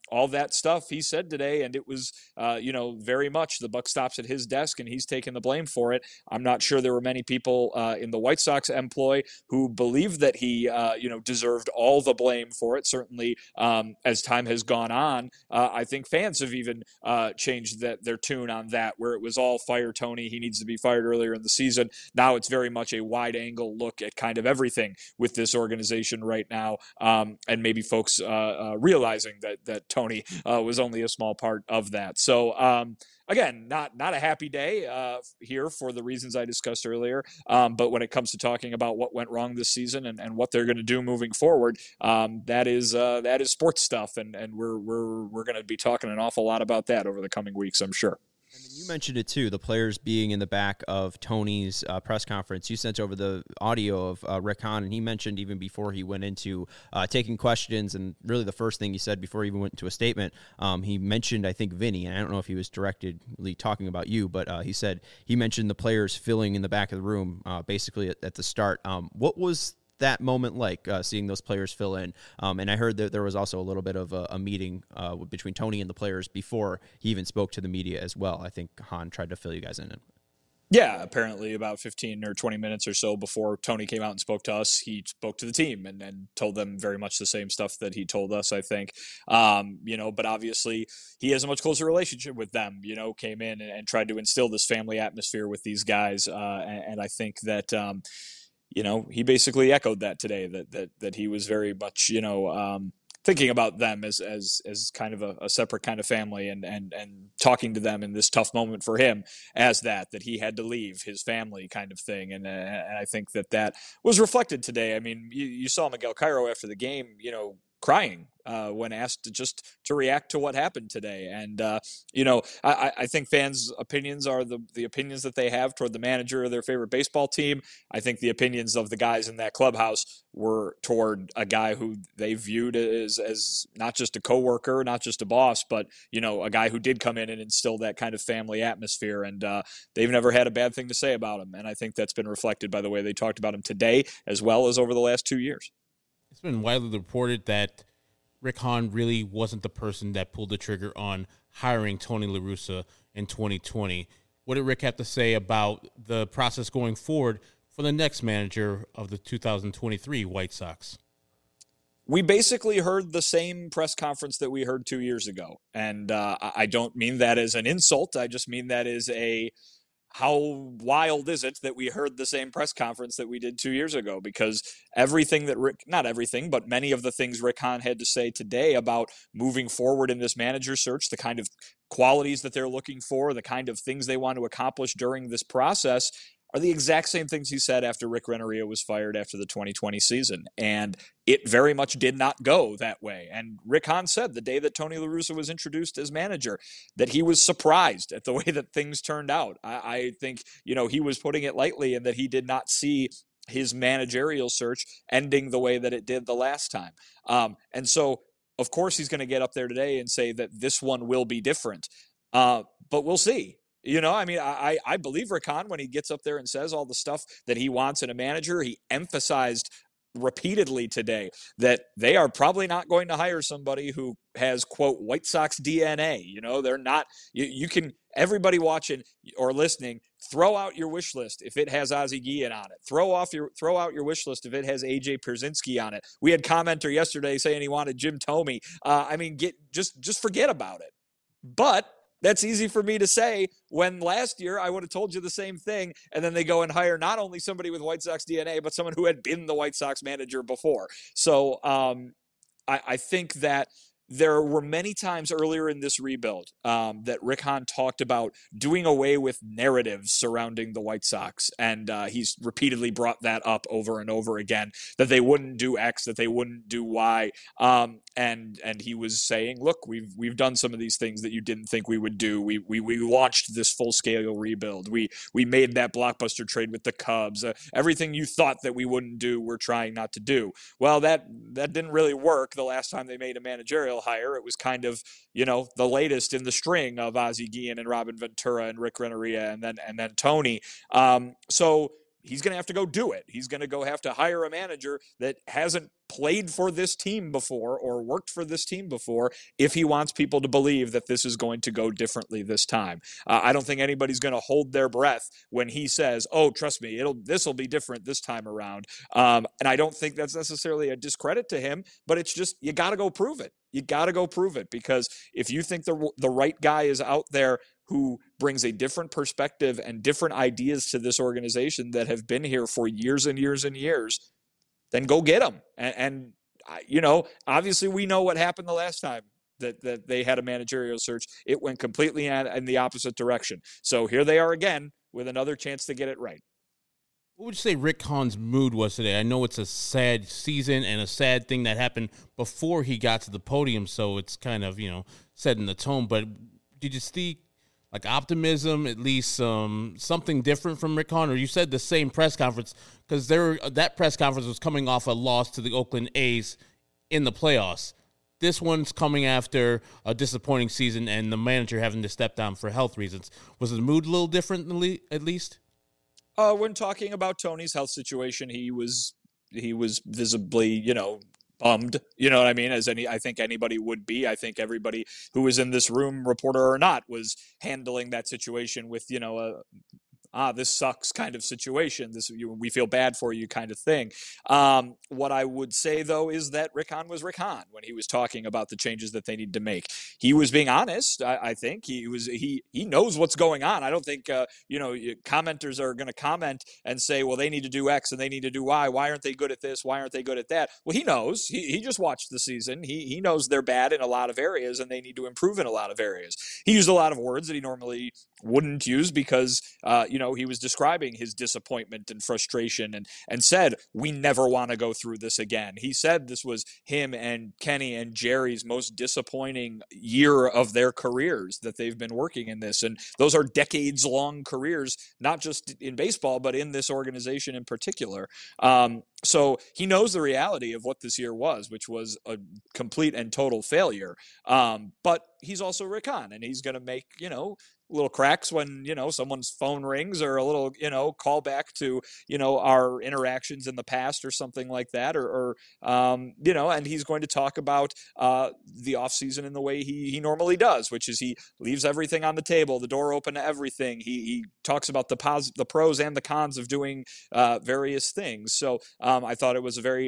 all that stuff he said today, and it was, uh, you know, very much the buck stops at his desk, and he's taking the blame for it. I'm not sure there were many people uh, in the White Sox employ who believed that he, uh, you know, deserved all the blame for it. Certainly, um, as time has gone on, uh, I think fans have even uh, changed that their tune on that, where it was all fire Tony, he needs to be fired earlier in the season. Now it's very much a wide angle look at kind of everything with this organization right now, um, and maybe folks uh, uh, realizing that that Tony uh, was only a small part of that. So um, again, not not a happy day uh, here for the reasons I discussed earlier. Um, but when it comes to talking about what went wrong this season and, and what they're going to do moving forward, um, that is uh, that is sports stuff, and and we're we're we're going to be talking an awful lot about that over the coming weeks, I'm sure. And then you mentioned it too, the players being in the back of Tony's uh, press conference. You sent over the audio of uh, Rick Hahn, and he mentioned even before he went into uh, taking questions, and really the first thing he said before he even went into a statement, um, he mentioned, I think, Vinny, and I don't know if he was directly talking about you, but uh, he said he mentioned the players filling in the back of the room uh, basically at, at the start. Um, what was that moment like, uh, seeing those players fill in? Um, and I heard that there was also a little bit of a, a meeting uh, between Tony and the players before he even spoke to the media as well. I think Hahn tried to fill you guys in. Yeah, apparently about fifteen or twenty minutes or so before Tony came out and spoke to us, he spoke to the team and, and told them very much the same stuff that he told us, I think. Um, you know, but obviously he has a much closer relationship with them, you know, came in and, and tried to instill this family atmosphere with these guys. Uh, and, and I think that, um, you know, he basically echoed that today, that that that he was very much, you know, um, thinking about them as as as kind of a, a separate kind of family, and and and talking to them in this tough moment for him as that that he had to leave his family kind of thing. And, uh, and I think that that was reflected today. I mean, you, you saw Miguel Cairo after the game, you know, crying uh, when asked to just to react to what happened today. And, uh, you know, I, I think fans' opinions are the, the opinions that they have toward the manager of their favorite baseball team. I think the opinions of the guys in that clubhouse were toward a guy who they viewed as, as not just a coworker, not just a boss, but, you know, a guy who did come in and instill that kind of family atmosphere. And uh, they've never had a bad thing to say about him. And I think that's been reflected by the way they talked about him today, as well as over the last two years. It's been widely reported that Rick Hahn really wasn't the person that pulled the trigger on hiring Tony La Russa in twenty twenty. What did Rick have to say about the process going forward for the next manager of the two thousand twenty-three White Sox? We basically heard the same press conference that we heard two years ago. And uh, I don't mean that as an insult. I just mean that as a, how wild is it that we heard the same press conference that we did two years ago? Because everything that Rick, not everything, but many of the things Rick Hahn had to say today about moving forward in this manager search, the kind of qualities that they're looking for, the kind of things they want to accomplish during this process, are the exact same things he said after Rick Renneria was fired after the twenty twenty season. And it very much did not go that way. And Rick Hahn said the day that Tony La Russa was introduced as manager that he was surprised at the way that things turned out. I, I think, you know, he was putting it lightly, and that he did not see his managerial search ending the way that it did the last time. Um, and so, of course, he's going to get up there today and say that this one will be different. Uh, but we'll see. You know, I mean, I, I believe Rick Hahn when he gets up there and says all the stuff that he wants in a manager. He emphasized repeatedly today that they are probably not going to hire somebody who has, quote, White Sox D N A. You know, they're not, you, you can, everybody watching or listening, throw out your wish list if it has Ozzie Guillen on it. Throw off your, throw out your wish list if it has A J Pierzynski on it. We had commenter yesterday saying he wanted Jim Thome. Uh, I mean, get, just, just forget about it. But that's easy for me to say when last year I would have told you the same thing, and then they go and hire not only somebody with White Sox D N A, but someone who had been the White Sox manager before. So um, I, I think that there were many times earlier in this rebuild um, that Rick Hahn talked about doing away with narratives surrounding the White Sox. And uh, he's repeatedly brought that up over and over again, that they wouldn't do X, that they wouldn't do Y. Um, and and he was saying, look, we've we've done some of these things that you didn't think we would do. We we we launched this full-scale rebuild. We we made that blockbuster trade with the Cubs. Uh, everything you thought that we wouldn't do, we're trying not to do. Well, that that didn't really work the last time they made a managerial hire. It was kind of, you know, the latest in the string of Ozzie Guillen and Robin Ventura and Rick Renneria and then and then Tony. Um, so he's going to have to go do it. He's going to go have to hire a manager that hasn't played for this team before or worked for this team before if he wants people to believe that this is going to go differently this time. Uh, I don't think anybody's going to hold their breath when he says, oh, trust me, it'll this will be different this time around. Um, and I don't think that's necessarily a discredit to him, but it's just you got to go prove it. You got to go prove it, because if you think the the right guy is out there who brings a different perspective and different ideas to this organization that have been here for years and years and years, then go get them. And, and, you know, obviously we know what happened the last time that, that they had a managerial search. It went completely in, in the opposite direction. So here they are again with another chance to get it right. What would you say Rick Hahn's mood was today? I know it's a sad season and a sad thing that happened before he got to the podium, so it's kind of, you know, setting the tone. But did you see like optimism, at least um, something different from Rick Hahn? Or you said the same press conference, because there that press conference was coming off a loss to the Oakland A's in the playoffs. This one's coming after a disappointing season and the manager having to step down for health reasons. Was the mood a little different, at least? Uh, when talking about Tony's health situation, he was he was visibly, you know, bummed, you know what I mean? As any, I think anybody would be. I think everybody who was in this room, reporter or not, was handling that situation with, you know, a ah, this sucks kind of situation. This you, we feel bad for you kind of thing. Um, what I would say, though, is that Rick Hahn was Rick Hahn when he was talking about the changes that they need to make. He was being honest. I, I think he was. He he knows what's going on. I don't think uh, you know commenters are going to comment and say, well, they need to do X and they need to do Y. Why aren't they good at this? Why aren't they good at that? Well, he knows. He he just watched the season. He he knows they're bad in a lot of areas and they need to improve in a lot of areas. He used a lot of words that he normally wouldn't use because uh, you know he was describing his disappointment and frustration and and said we never want to go through this again. He said this was him and Kenny and Jerry's most disappointing year of their careers that they've been working in this, and those are decades long careers, not just in baseball but in this organization in particular. Um, so he knows the reality of what this year was, which was a complete and total failure. Um, but he's also Rick Hahn, and he's going to make, you know, little cracks when, you know, someone's phone rings or a little, you know, call back to, you know, our interactions in the past or something like that. Or, or um, you know, and he's going to talk about uh, the offseason in the way he, he normally does, which is he leaves everything on the table, the door open to everything. He, he talks about the pos- the pros and the cons of doing uh, various things. So um, I thought it was a very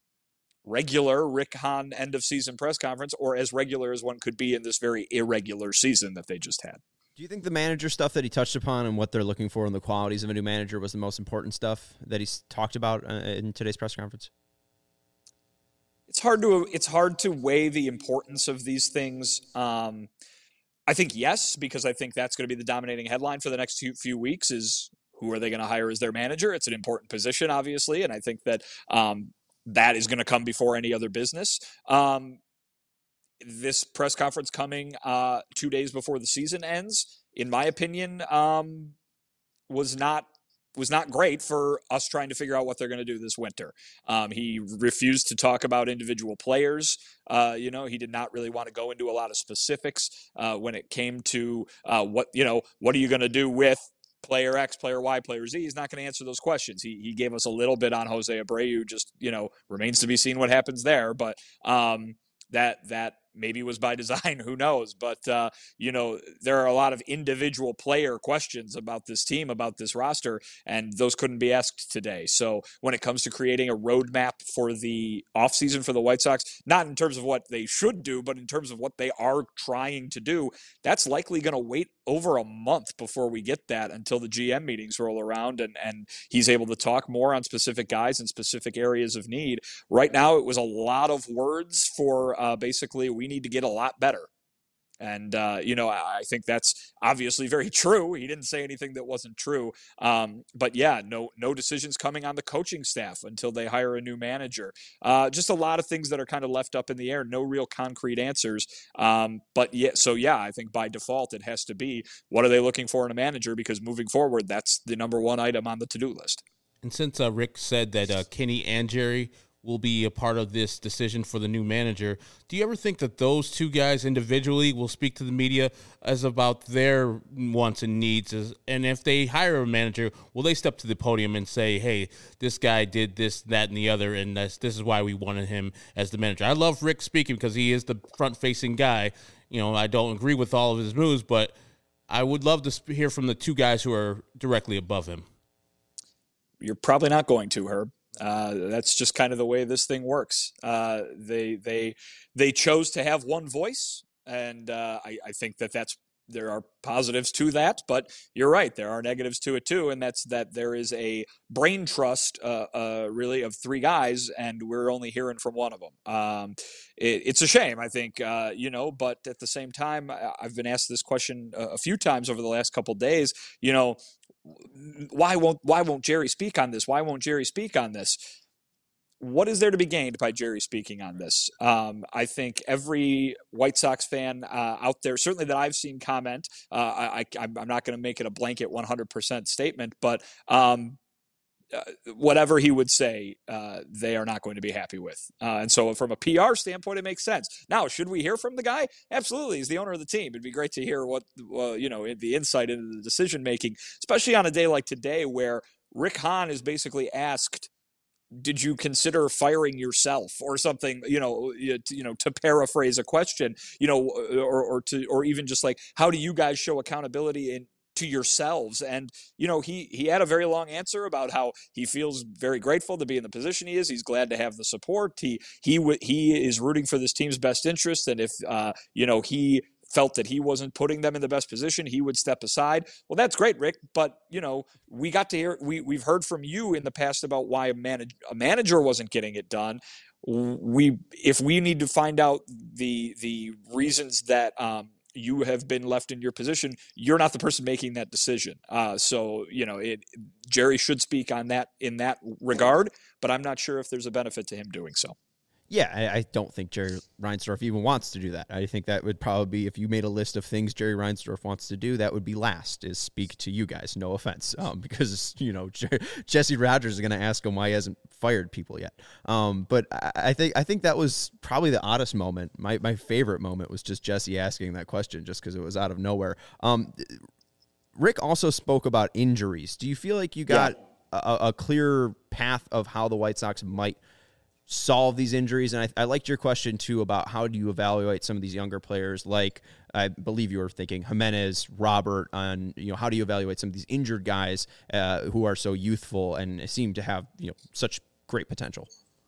regular Rick Hahn end of season press conference, or as regular as one could be in this very irregular season that they just had. Do you think the manager stuff that he touched upon and what they're looking for in the qualities of a new manager was the most important stuff that he's talked about uh, in today's press conference? It's hard to it's hard to weigh the importance of these things. Um, I think yes, because I think that's going to be the dominating headline for the next few, few weeks is who are they going to hire as their manager? It's an important position, obviously, and I think that um, that is going to come before any other business. Um, This press conference coming uh, two days before the season ends, in my opinion, um, was not was not great for us trying to figure out what they're going to do this winter. Um, he refused to talk about individual players. Uh, you know, he did not really want to go into a lot of specifics uh, when it came to uh, what you know. What are you going to do with player X, player Y, player Z? He's not going to answer those questions. He he gave us a little bit on Jose Abreu. Just you know, remains to be seen what happens there. But um, that that. Maybe was by design, who knows? But, uh, you know, there are a lot of individual player questions about this team, about this roster, and those couldn't be asked today. So when it comes to creating a roadmap for the offseason for the White Sox, not in terms of what they should do, but in terms of what they are trying to do, that's likely going to wait over a month before we get that until the G M meetings roll around and, and he's able to talk more on specific guys and specific areas of need. Right now, it was a lot of words for uh, basically we need to get a lot better. And, uh, you know, I think that's obviously very true. He didn't say anything that wasn't true. Um, but, yeah, no no decisions coming on the coaching staff until they hire a new manager. Uh, just a lot of things that are kind of left up in the air. No real concrete answers. Um, but, yeah, so, yeah, I think by default it has to be what are they looking for in a manager, because moving forward, that's the number one item on the to-do list. And since uh, Rick said that uh, Kenny and Jerry will be a part of this decision for the new manager. Do you ever think that those two guys individually will speak to the media as about their wants and needs? As, and if they hire a manager, will they step to the podium and say, hey, this guy did this, that, and the other, and that's, this is why we wanted him as the manager? I love Rick speaking because he is the front-facing guy. You know, I don't agree with all of his moves, but I would love to hear from the two guys who are directly above him. You're probably not going to, Herb. Uh, that's just kind of the way this thing works. Uh, they they they chose to have one voice, and uh, I, I think that that's there are positives to that. But you're right, there are negatives to it too, and that's that there is a brain trust, uh, uh, really, of three guys, and we're only hearing from one of them. Um, it, it's a shame, I think, uh, you know. But at the same time, I've been asked this question a, a few times over the last couple of days. You know. Why won't why won't Jerry speak on this? Why won't Jerry speak on this? What is there to be gained by Jerry speaking on this? Um, I think every White Sox fan uh, out there, certainly that I've seen comment, uh, I, I, I'm not going to make it a blanket one hundred percent statement, but um, uh, whatever he would say, uh, they are not going to be happy with. Uh, and so from a P R standpoint, it makes sense. Now, should we hear from the guy? Absolutely. He's the owner of the team. It'd be great to hear what, uh, you know, the insight into the decision-making, especially on a day like today where Rick Hahn is basically asked, did you consider firing yourself or something, you know, you, you know, to paraphrase a question, you know, or, or to, or even just like, how do you guys show accountability in, to yourselves? And, you know, he, he had a very long answer about how he feels very grateful to be in the position he is. He's glad to have the support. He, he, w- he is rooting for this team's best interest. And if, uh, you know, he felt that he wasn't putting them in the best position, he would step aside. Well, that's great, Rick. But, you know, we got to hear, we, we've heard from you in the past about why a, manage, a manager wasn't getting it done. We, if we need to find out the, the reasons that, um, you have been left in your position, you're not the person making that decision. Uh, so, you know, it, Jerry should speak on that in that regard, but I'm not sure if there's a benefit to him doing so. Yeah, I, I don't think Jerry Reinsdorf even wants to do that. I think that would probably be, if you made a list of things Jerry Reinsdorf wants to do, that would be last, is speak to you guys. No offense, um, because, you know, Jesse Rogers is going to ask him why he hasn't fired people yet. Um, but I, I think I think that was probably the oddest moment. My my favorite moment was just Jesse asking that question, just because it was out of nowhere. Um, Rick also spoke about injuries. Do you feel like you got yeah. a, a clear path of how the White Sox might solve these injuries? And I, I liked your question too about how do you evaluate some of these younger players, like I believe you were thinking Jimenez, Robert, on, you know, how do you evaluate some of these injured guys uh, who are so youthful and seem to have, you know, such great potential?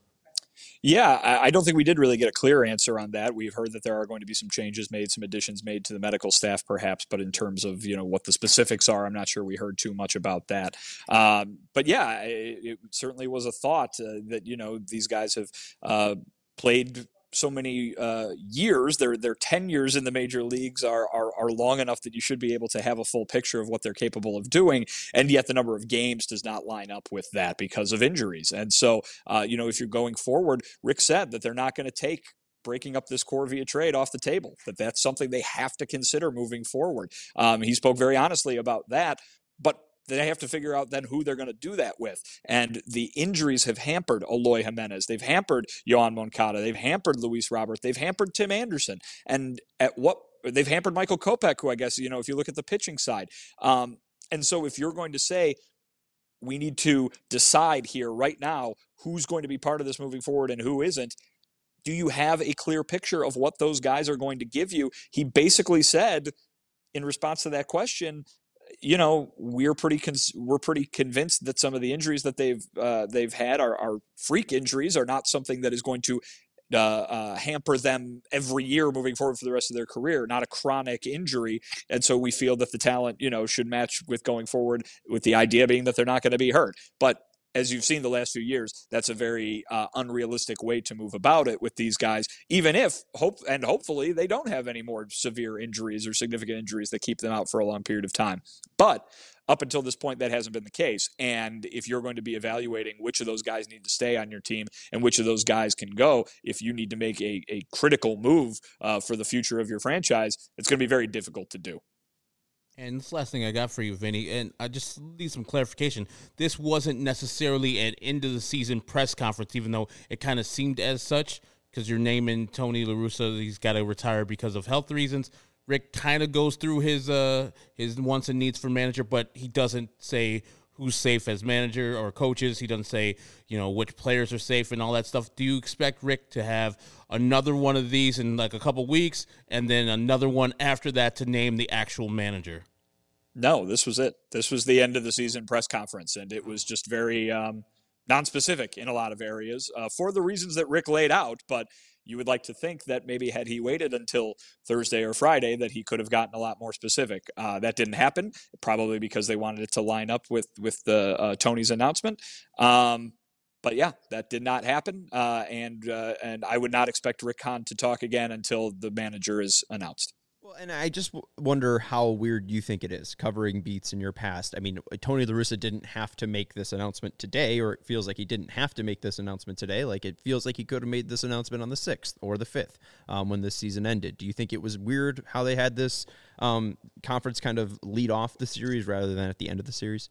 Yeah, I don't think we did really get a clear answer on that. We've heard that there are going to be some changes made, some additions made to the medical staff, perhaps, but in terms of, you know, what the specifics are, I'm not sure we heard too much about that. Um, but yeah, it, it certainly was a thought uh, that, you know, these guys have uh, played so many uh, years. Their their tenures in the major leagues are, are are long enough that you should be able to have a full picture of what they're capable of doing, and yet the number of games does not line up with that because of injuries. And so, uh, you know, if you're going forward, Rick said that they're not going to take breaking up this core via trade off the table, that that's something they have to consider moving forward. Um, he spoke very honestly about that, but they have to figure out then who they're going to do that with. And the injuries have hampered Eloy Jimenez. They've hampered Yoan Moncada. They've hampered Luis Robert. They've hampered Tim Anderson. And at what they've hampered Michael Kopech, who I guess, you know, if you look at the pitching side. Um, and so if you're going to say, we need to decide here right now who's going to be part of this moving forward and who isn't, do you have a clear picture of what those guys are going to give you? He basically said, in response to that question, you know, we're pretty con- we're pretty convinced that some of the injuries that they've uh, they've had are, are freak injuries, are not something that is going to uh, uh, hamper them every year moving forward for the rest of their career, not a chronic injury. And so we feel that the talent, you know, should match with going forward, with the idea being that they're not going to be hurt. But as you've seen the last few years, that's a very uh, unrealistic way to move about it with these guys, even if, hope and hopefully, they don't have any more severe injuries or significant injuries that keep them out for a long period of time. But up until this point, that hasn't been the case. And if you're going to be evaluating which of those guys need to stay on your team and which of those guys can go, if you need to make a, a critical move uh, for the future of your franchise, it's going to be very difficult to do. And this last thing I got for you, Vinny, and I just need some clarification. This wasn't necessarily an end of the season press conference, even though it kind of seemed as such, because you're naming Tony La Russa. He's got to retire because of health reasons. Rick kind of goes through his uh, his wants and needs for manager, but he doesn't say who's safe as manager or coaches. He doesn't say, you know, which players are safe and all that stuff. Do you expect Rick to have another one of these in like a couple weeks and then another one after that to name the actual manager? No, this was it. This was the end of the season press conference, and it was just very um, non-specific in a lot of areas uh, for the reasons that Rick laid out. But you would like to think that maybe had he waited until Thursday or Friday that he could have gotten a lot more specific. Uh, that didn't happen, probably because they wanted it to line up with with the uh, Tony's announcement. Um, but yeah, that did not happen, uh, and uh, and I would not expect Rick Hahn to talk again until the manager is announced. Well, and I just w- wonder how weird you think it is covering beats in your past. I mean, Tony La Russa didn't have to make this announcement today, or it feels like he didn't have to make this announcement today. Like it feels like he could have made this announcement on the sixth or the fifth um, when this season ended. Do you think it was weird how they had this um, conference kind of lead off the series rather than at the end of the series?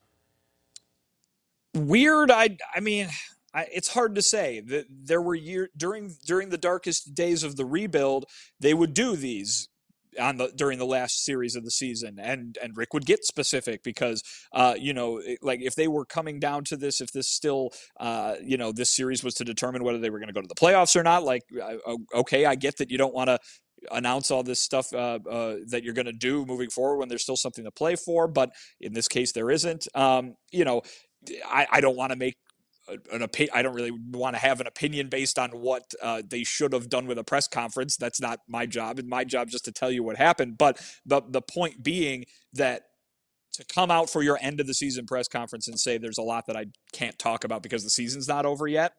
Weird. I. I mean. I, it's hard to say. That there were year during during the darkest days of the rebuild, they would do these on the during the last series of the season, and and Rick would get specific because uh you know it, like if they were coming down to this, if this still uh you know this series was to determine whether they were going to go to the playoffs or not, like uh, okay, I get that you don't want to announce all this stuff uh, uh, that you're going to do moving forward when there's still something to play for, but in this case there isn't. Um, you know, I, I don't want to make an opinion. I don't really want to have an opinion based on what uh, they should have done with a press conference. That's not my job. And my job is just to tell you what happened. But the the point being that to come out for your end of the season press conference and say there's a lot that I can't talk about because the season's not over yet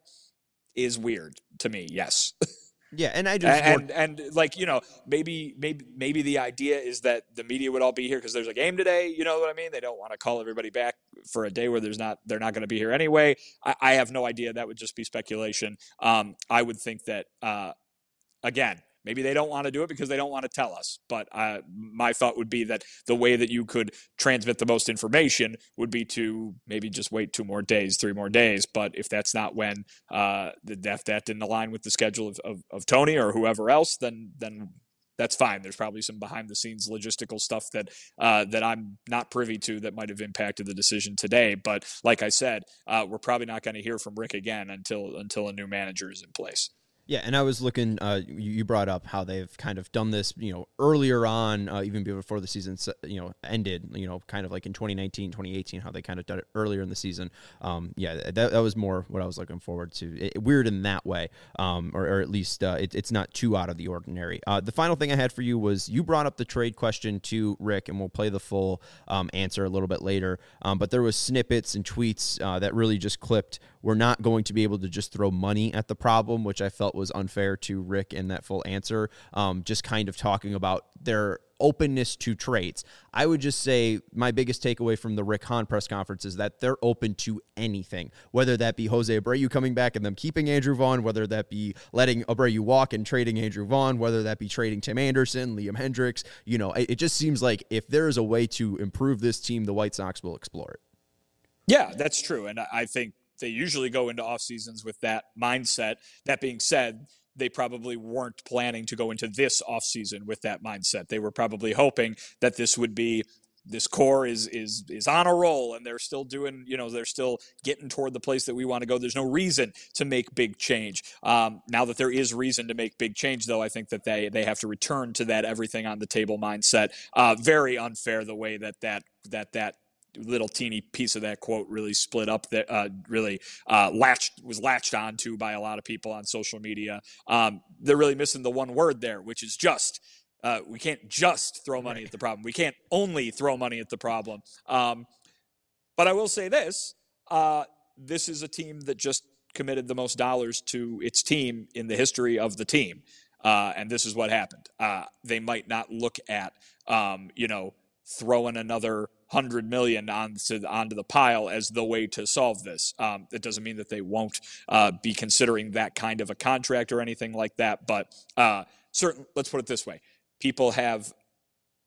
is weird to me. Yes. Yeah, and I just and, and and like you know maybe maybe maybe the idea is that the media would all be here because there's a game today. You know what I mean? They don't want to call everybody back for a day where there's not they're not going to be here anyway. I, I have no idea. That would just be speculation. Um, I would think that uh, again. Maybe they don't want to do it because they don't want to tell us. But uh, my thought would be that the way that you could transmit the most information would be to maybe just wait two more days, three more days. But if that's not when uh, the if that didn't align with the schedule of, of, of Tony or whoever else, then then that's fine. There's probably some behind the scenes logistical stuff that uh, that I'm not privy to that might have impacted the decision today. But like I said, uh, we're probably not going to hear from Rick again until until a new manager is in place. Yeah, and I was looking, uh, you brought up how they've kind of done this, you know, earlier on, uh, even before the season, you know, ended, you know, kind of like in twenty nineteen, twenty eighteen, how they kind of did it earlier in the season. Um, yeah, that, that was more what I was looking forward to. It, weird in that way, um, or, or at least uh, it, it's not too out of the ordinary. Uh, the final thing I had for you was you brought up the trade question to Rick, and we'll play the full um, answer a little bit later. Um, but there was snippets and tweets uh, that really just clipped. We're not going to be able to just throw money at the problem, which I felt was unfair to Rick in that full answer. Um, just kind of talking about their openness to trades. I would just say my biggest takeaway from the Rick Hahn press conference is that they're open to anything, whether that be Jose Abreu coming back and them keeping Andrew Vaughn, whether that be letting Abreu walk and trading Andrew Vaughn, whether that be trading Tim Anderson, Liam Hendricks. You know, it, it just seems like if there is a way to improve this team, the White Sox will explore it. Yeah, that's true. And I think they usually go into off seasons with that mindset. That being said, they probably weren't planning to go into this off season with that mindset. They were probably hoping that this would be this core is is is on a roll and they're still doing, you know, they're still getting toward the place that we want to go. There's no reason to make big change. Um, now that there is reason to make big change, though, I think that they they have to return to that everything on the table mindset. Uh, very unfair the way that that that that. little teeny piece of that quote really split up that uh, really uh, latched was latched onto by a lot of people on social media. Um, they're really missing the one word there, which is just. Uh, we can't just throw money at the problem. We can't only throw money at the problem. Um, but I will say this: uh, this is a team that just committed the most dollars to its team in the history of the team, uh, and this is what happened. Uh, they might not look at, um, you know, throwing another hundred million onto onto the pile as the way to solve this. Um, it doesn't mean that they won't uh, be considering that kind of a contract or anything like that. But uh, certain, let's put it this way: people have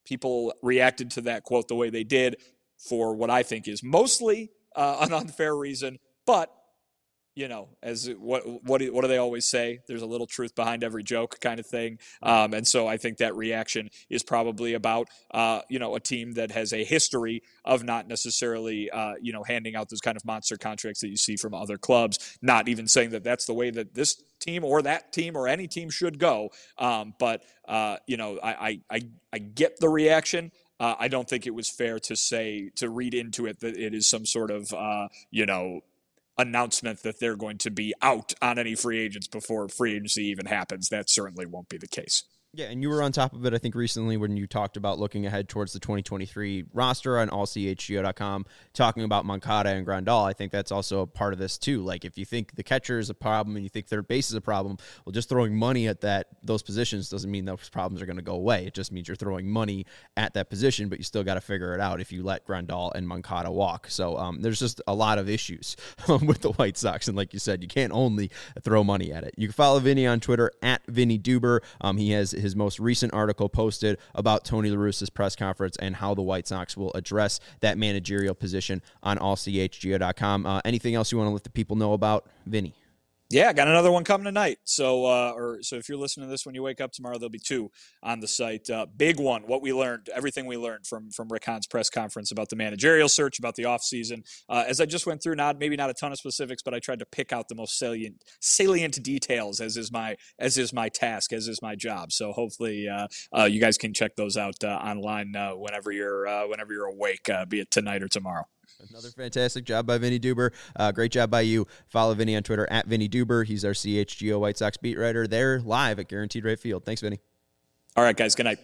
people reacted to that quote the way they did for what I think is mostly uh, an unfair reason. But, you know, as what what do, what do they always say? There's a little truth behind every joke kind of thing. Um, and so I think that reaction is probably about, uh, you know, a team that has a history of not necessarily, uh, you know, handing out those kind of monster contracts that you see from other clubs. Not even saying that that's the way that this team or that team or any team should go. Um, but, uh, you know, I, I, I get the reaction. Uh, I don't think it was fair to say, to read into it that it is some sort of, uh, you know, announcement that they're going to be out on any free agents before free agency even happens. That certainly won't be the case. Yeah, and you were on top of it, I think, recently when you talked about looking ahead towards the twenty twenty-three roster on all c h g o dot com, talking about Moncada and Grandal. I think that's also a part of this, too. Like, if you think the catcher is a problem and you think third base is a problem, well, just throwing money at that those positions doesn't mean those problems are going to go away. It just means you're throwing money at that position, but you still got to figure it out if you let Grandal and Moncada walk. So um, there's just a lot of issues with the White Sox, and like you said, you can't only throw money at it. You can follow Vinny on Twitter, at Vinny Duber. Um, he has his most recent article posted about Tony La Russa's press conference and how the White Sox will address that managerial position on all c h g o dot com. Uh, anything else you want to let the people know about, Vinny? Yeah, got another one coming tonight. So, uh, or so if you're listening to this when you wake up tomorrow, there'll be two on the site. Uh, big one, what we learned, everything we learned from from Rick Hahn's press conference about the managerial search, about the offseason. Uh, as I just went through, not maybe not a ton of specifics, but I tried to pick out the most salient salient details, as is my as is my task, as is my job. So hopefully, uh, uh, you guys can check those out uh, online uh, whenever you're uh, whenever you're awake, uh, be it tonight or tomorrow. Another fantastic job by Vinny Duber. Uh, great job by you. Follow Vinny on Twitter, at Vinny Duber. He's our C H G O White Sox beat writer. They're live at Guaranteed Rate Field. Thanks, Vinny. All right, guys. Good night.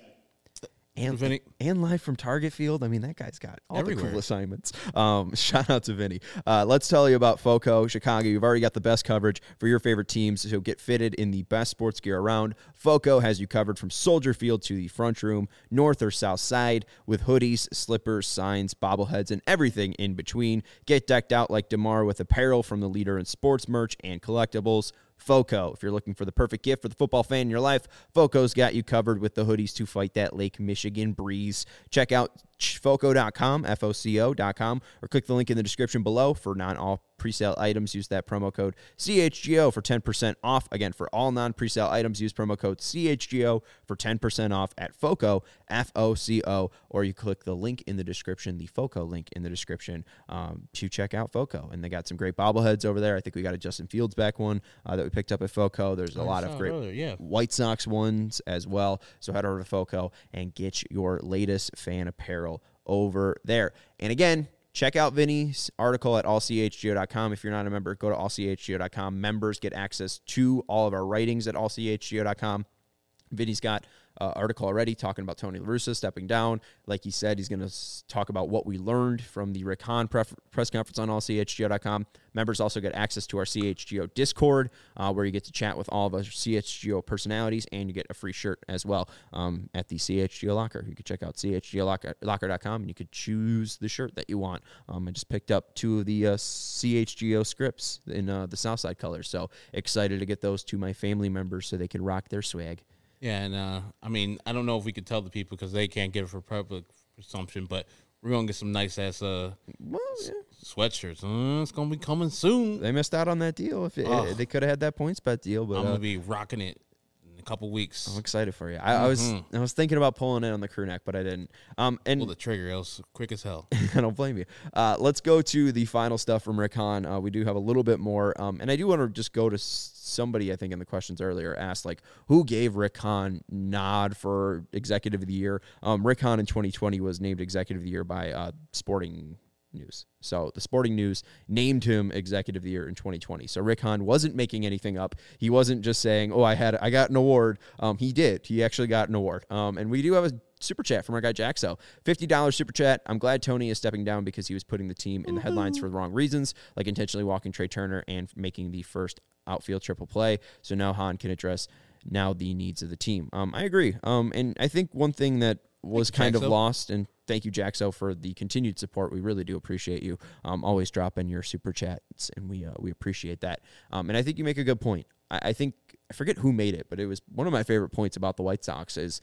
And, Vinny. and live from Target Field. I mean, that guy's got all Everywhere. the cool assignments. Um, shout out to Vinny. Uh, let's tell you about FOCO Chicago. You've already got the best coverage for your favorite teams, so get fitted in the best sports gear around. FOCO has you covered from Soldier Field to the front room, north or south side, with hoodies, slippers, signs, bobbleheads, and everything in between. Get decked out like DeMar with apparel from the leader in sports merch and collectibles. FOCO. If you're looking for the perfect gift for the football fan in your life, FOCO's got you covered with the hoodies to fight that Lake Michigan breeze. Check out foco dot com, F O C O dot com, or click the link in the description below for non-all presale items. Use that promo code C H G O for ten percent off. Again, for all non-presale items, use promo code C H G O for ten percent off at FOCO, F O C O, or you click the link in the description, the FOCO link in the description, um, to check out FOCO. And they got some great bobbleheads over there. I think we got a Justin Fields back one uh, that we picked up at FOCO. There's a I lot saw of it great earlier, yeah. White Sox ones as well. So head over to FOCO and get your latest fan apparel over there. And again, check out Vinny's article at all c h g o dot com. If you're not a member, go to all c h g o dot com. Members get access to all of our writings at all c h g o dot com. Vinny's got an uh, article already talking about Tony La Russa stepping down. Like he said, he's going to s- talk about what we learned from the Rick Hahn pref- press conference on all c h g o dot com. Members also get access to our C H G O Discord, uh, where you get to chat with all of our C H G O personalities, and you get a free shirt as well um, at the C H G O Locker. You can check out c h g o locker dot com, and you could choose the shirt that you want. Um, I just picked up two of the uh, C H G O scripts in uh, the Southside colors, so excited to get those to my family members so they can rock their swag. Yeah, and uh, I mean, I don't know if we could tell the people because they can't get it for public consumption, but we're gonna get some nice ass uh, Well, yeah. sweatshirts. Uh, it's gonna be coming soon. They missed out on that deal. If it, Oh. they could have had that points bet deal, but I'm uh, gonna be rocking it in a couple weeks. I'm excited for you. I, I was Mhm. I was thinking about pulling it on the crew neck, but I didn't. Um, and Pull the trigger, else quick as hell. I don't blame you. Uh, let's go to the final stuff from Rick Hahn. Uh, we do have a little bit more, um, and I do want to just go to s- somebody I think in the questions earlier asked like who gave Rick Hahn nod for Executive of the Year. Um, Rick Hahn in twenty twenty was named Executive of the Year by uh, Sporting News. So the Sporting News named him Executive of the Year in twenty twenty. So Rick Hahn wasn't making anything up. He wasn't just saying, "Oh, I had I got an award." Um, he did. He actually got an award. Um, and we do have a super chat from our guy Jaxo. fifty dollars super chat. I'm glad Tony is stepping down because he was putting the team in the headlines for the wrong reasons, like intentionally walking Trey Turner and making the first outfield triple play. So now Hahn can address now the needs of the team. Um, I agree. Um, and I think one thing that was Thank you, kind of Jaxo. lost, and thank you, Jaxo, for the continued support. We really do appreciate you. Um, always dropping your super chats, and we uh, we appreciate that. Um, and I think you make a good point. I, I think I forget who made it, but it was one of my favorite points about the White Sox is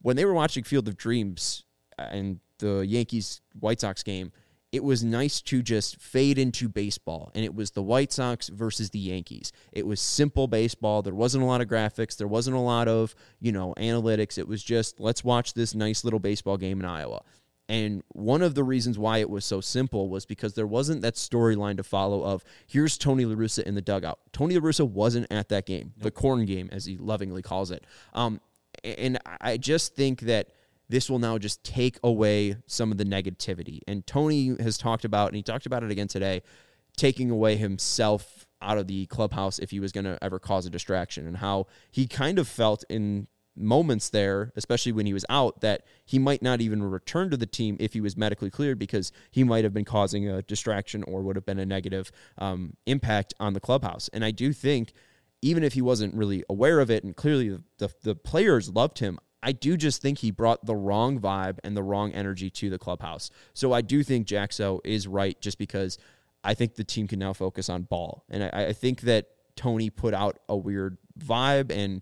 when they were watching Field of Dreams and the Yankees-White Sox game, it was nice to just fade into baseball, and it was the White Sox versus the Yankees. It was simple baseball. There wasn't a lot of graphics. There wasn't a lot of, you know, analytics. It was just, let's watch this nice little baseball game in Iowa. And one of the reasons why it was so simple was because there wasn't that storyline to follow of, here's Tony La Russa in the dugout. Tony La Russa wasn't at that game, nope. The corn game, as he lovingly calls it. Um, and I just think that this will now just take away some of the negativity. And Tony has talked about, and he talked about it again today, taking away himself out of the clubhouse if he was going to ever cause a distraction, and how he kind of felt in moments there, especially when he was out, that he might not even return to the team if he was medically cleared, because he might have been causing a distraction or would have been a negative um, impact on the clubhouse. And I do think, even if he wasn't really aware of it, and clearly the, the, the players loved him, I do just think he brought the wrong vibe and the wrong energy to the clubhouse. So I do think Jaxo is right, just because I think the team can now focus on ball. And I, I think that Tony put out a weird vibe, and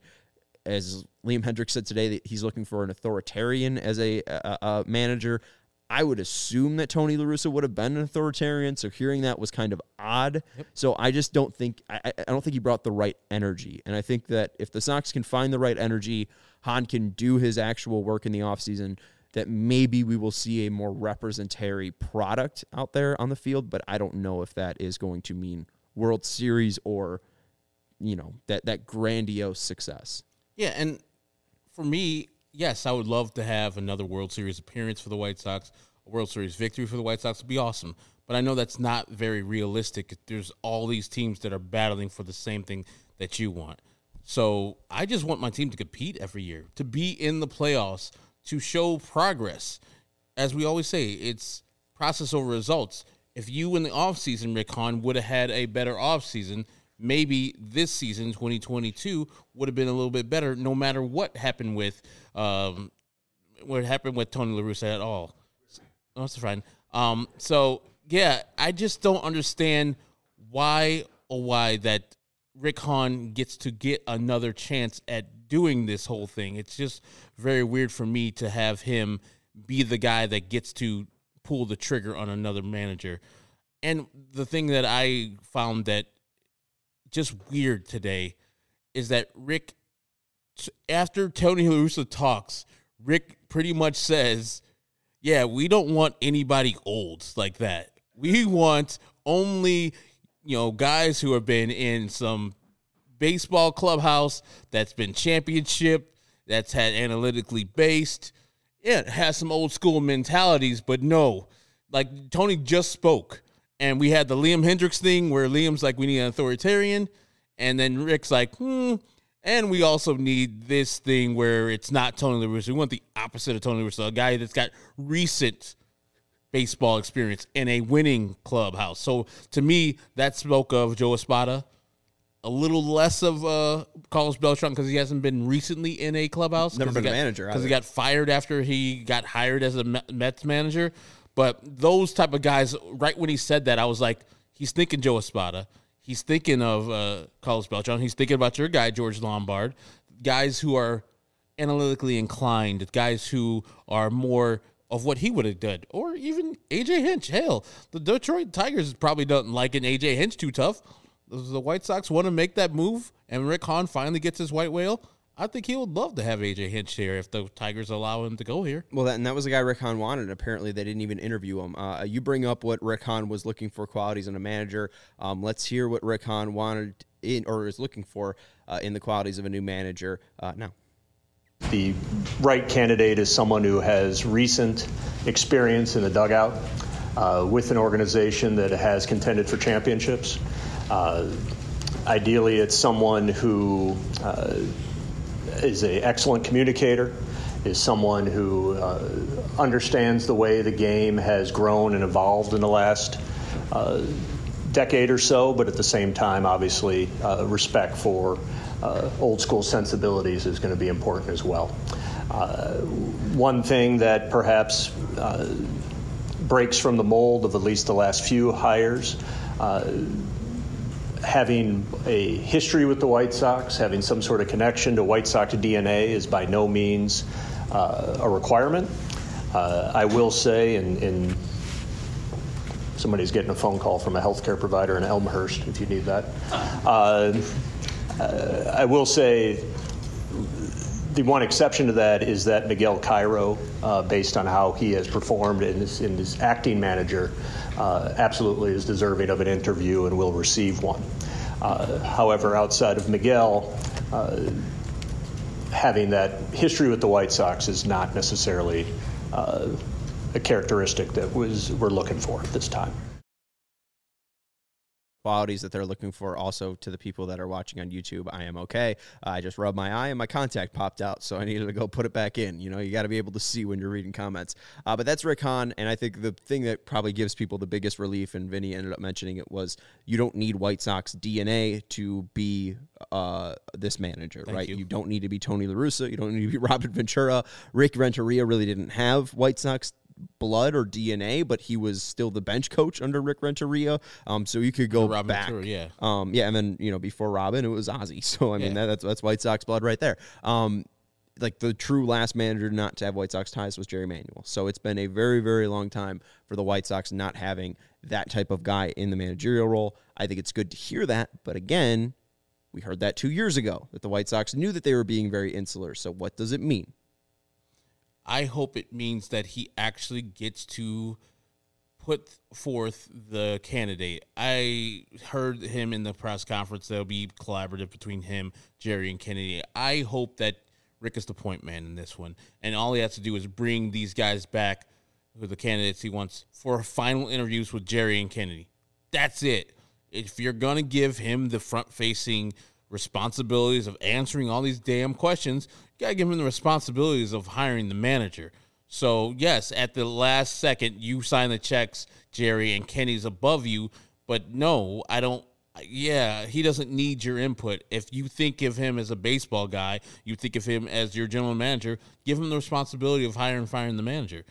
as Liam Hendriks said today, that he's looking for an authoritarian as a, a, a manager. I would assume that Tony La Russa would have been an authoritarian, so hearing that was kind of odd. Yep. So I just don't think I, I don't think he brought the right energy. And I think that if the Sox can find the right energy, Hahn can do his actual work in the offseason, that maybe we will see a more representatory product out there on the field. But I don't know if that is going to mean World Series or, you know, that, that grandiose success. Yeah, and for me, yes, I would love to have another World Series appearance for the White Sox. A World Series victory for the White Sox would be awesome. But I know that's not very realistic. There's all these teams that are battling for the same thing that you want. So I just want my team to compete every year, to be in the playoffs, to show progress. As we always say, it's process over results. If you in the offseason, Rick Hahn, would have had a better offseason, maybe this season, twenty twenty-two, would have been a little bit better, no matter what happened with um, what happened with Tony La Russa at all. Oh, that's fine. Um, so, yeah, I just don't understand why or why that Rick Hahn gets to get another chance at doing this whole thing. It's just very weird for me to have him be the guy that gets to pull the trigger on another manager. And the thing that I found that just weird today is that Rick, after Tony La Russa talks, Rick pretty much says, yeah, we don't want anybody old like that. We want only, you know, guys who have been in some baseball clubhouse that's been championship, that's had analytically based. Yeah, it has some old school mentalities, but no, like Tony just spoke. And we had the Liam Hendriks thing where Liam's like, we need an authoritarian. And then Rick's like, hmm. And we also need this thing where it's not Tony La Russa. We want the opposite of Tony La Russa, a guy that's got recent baseball experience in a winning clubhouse. So to me, that spoke of Joe Espada. A little less of uh, Carlos Beltran because he hasn't been recently in a clubhouse. Never been got, a manager. Because he got fired after he got hired as a Mets manager. But those type of guys, right when he said that, I was like, he's thinking Joe Espada. He's thinking of uh, Carlos Beltran. He's thinking about your guy, George Lombard. Guys who are analytically inclined, guys who are more of what he would have done. Or even A J Hinch. Hell, the Detroit Tigers probably don't like an A J Hinch too tough. The White Sox want to make that move, and Rick Hahn finally gets his white whale. I think he would love to have A J Hinch here if the Tigers allow him to go here. Well, that, and that was the guy Rick Hahn wanted. Apparently, they didn't even interview him. Uh, you bring up what Rick Hahn was looking for qualities in a manager. Um, let's hear what Rick Hahn wanted in or is looking for uh, in the qualities of a new manager uh, now. The right candidate is someone who has recent experience in the dugout uh, with an organization that has contended for championships. Uh, ideally, it's someone who uh, is an excellent communicator, is someone who uh, understands the way the game has grown and evolved in the last uh, decade or so, but at the same time, obviously, uh, respect for uh, old school sensibilities is going to be important as well. Uh, one thing that perhaps uh, breaks from the mold of at least the last few hires, uh, having a history with the White Sox, having some sort of connection to White Sox D N A is by no means uh, a requirement. Uh, I will say, and, and somebody's getting a phone call from a healthcare provider in Elmhurst, if you need that. Uh, uh, I will say the one exception to that is that Miguel Cairo, uh, based on how he has performed in his, in his acting manager, uh, absolutely is deserving of an interview and will receive one. Uh, however, outside of Miguel, uh, having that history with the White Sox is not necessarily uh, a characteristic that was we're looking for at this time. Qualities that they're looking for also to the people that are watching on YouTube. I am okay. Uh, I just rubbed my eye and my contact popped out, so I needed to go put it back in. You know, you got to be able to see when you're reading comments. Uh, but that's Rick Hahn, and I think the thing that probably gives people the biggest relief, and Vinny ended up mentioning it, was you don't need White Sox D N A to be uh, this manager, Thank right? you. You don't need to be Tony La Russa. You don't need to be Robin Ventura. Rick Renteria really didn't have White Sox blood or D N A, but he was still the bench coach under Rick Renteria. Um, so you could go Robin back. Ventura, yeah. Um, yeah, and then, you know, before Robin, it was Ozzie. So, I mean, Yeah. that, that's that's White Sox blood right there. Um, like, the true last manager not to have White Sox ties was Jerry Manuel. So it's been a very, very long time for the White Sox not having that type of guy in the managerial role. I think it's good to hear that. But again, we heard that two years ago, that the White Sox knew that they were being very insular. So what does it mean? I hope it means that he actually gets to put forth the candidate. I heard him in the press conference. There'll be collaborative between him, Jerry, and Kennedy. I hope that Rick is the point man in this one, and all he has to do is bring these guys back with the candidates he wants for final interviews with Jerry and Kennedy. That's it. If you're going to give him the front-facing responsibilities of answering all these damn questions, you got to give him the responsibilities of hiring the manager. So, yes, at the last second, you sign the checks, Jerry, and Kenny's above you. But no, I don't. Yeah, he doesn't need your input. If you think of him as a baseball guy, you think of him as your general manager, give him the responsibility of hiring and firing the manager.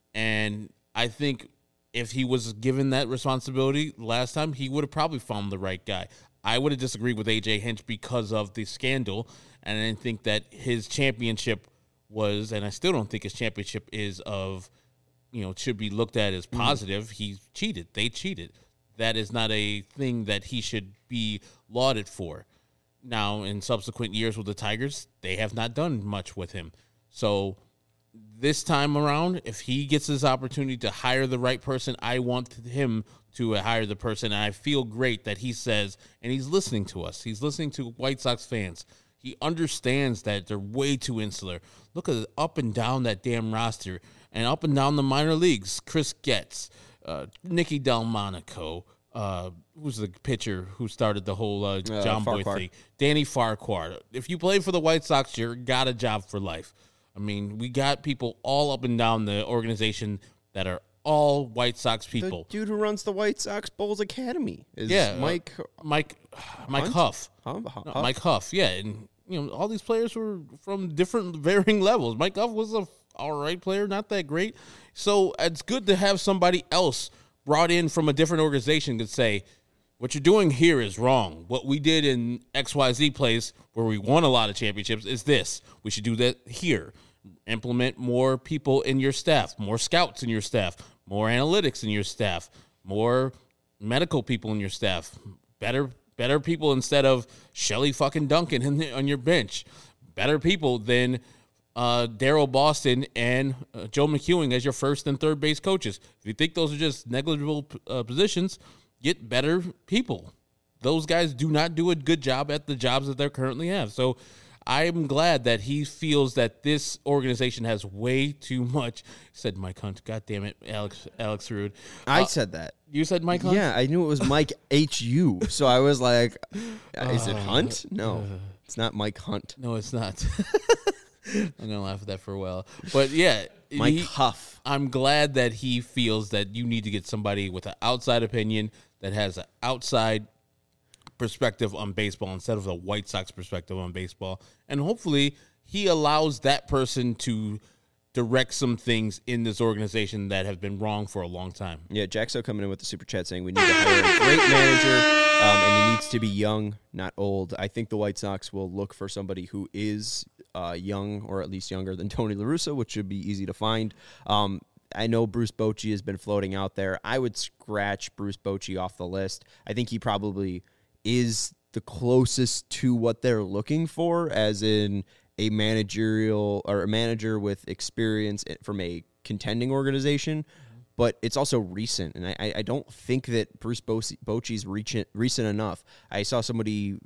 And I think if he was given that responsibility last time, he would have probably found the right guy. I would have disagreed with A J Hinch because of the scandal, and I didn't think that his championship was, and I still don't think his championship is of, you know, should be looked at as positive. Mm. He cheated. They cheated. That is not a thing that he should be lauded for. Now, in subsequent years with the Tigers, they have not done much with him. So this time around, if he gets his opportunity to hire the right person, I want him to hire the person. And I feel great that he says, and he's listening to us. He's listening to White Sox fans. He understands that they're way too insular. Look at up and down that damn roster and up and down the minor leagues. Chris Getz, uh, Nicky Delmonico, uh, who's the pitcher who started the whole uh, John uh, Boy thing? Danny Farquhar. If you play for the White Sox, you got a job for life. I mean, we got people all up and down the organization that are all White Sox people. The dude who runs the White Sox Bulls Academy is yeah, Mike uh, Mike Mike Huff. Huh? Huff. No, Mike Huff, yeah. And, you know, all these players were from different varying levels. Mike Huff was a all right player, not that great. So it's good to have somebody else brought in from a different organization to say, what you're doing here is wrong. What we did in X Y Z place where we won a lot of championships is this. We should do that here. Implement more people in your staff, more scouts in your staff, more analytics in your staff, more medical people in your staff, better better people instead of Shelly fucking Duncan in the, on your bench, better people than uh, Daryl Boston and uh, Joe McEwing as your first and third base coaches. If you think those are just negligible uh, positions, get better people. Those guys do not do a good job at the jobs that they currently have. So I'm glad that he feels that this organization has way too much. Said Mike Hunt. God damn it, Alex Alex Rude. I uh, said that. You said Mike Hunt? Yeah, I knew it was Mike H U. So I was like, is it Hunt? No, it's not Mike Hunt. No, it's not. I'm going to laugh at that for a while. But, yeah. Mike he, Huff. I'm glad that he feels that you need to get somebody with an outside opinion that has an outside perspective on baseball instead of a White Sox perspective on baseball. And hopefully he allows that person to direct some things in this organization that have been wrong for a long time. Yeah, Jaxo coming in with the super chat saying we need to hire a great manager, um, and he needs to be young, not old. I think the White Sox will look for somebody who is uh, young or at least younger than Tony La Russa, which should be easy to find. Um, I know Bruce Bochy has been floating out there. I would scratch Bruce Bochy off the list. I think he probably is the closest to what they're looking for, as in a managerial or a manager with experience from a contending organization. But it's also recent, and I, I don't think that Bruce Bochy's recent, recent enough. I saw somebody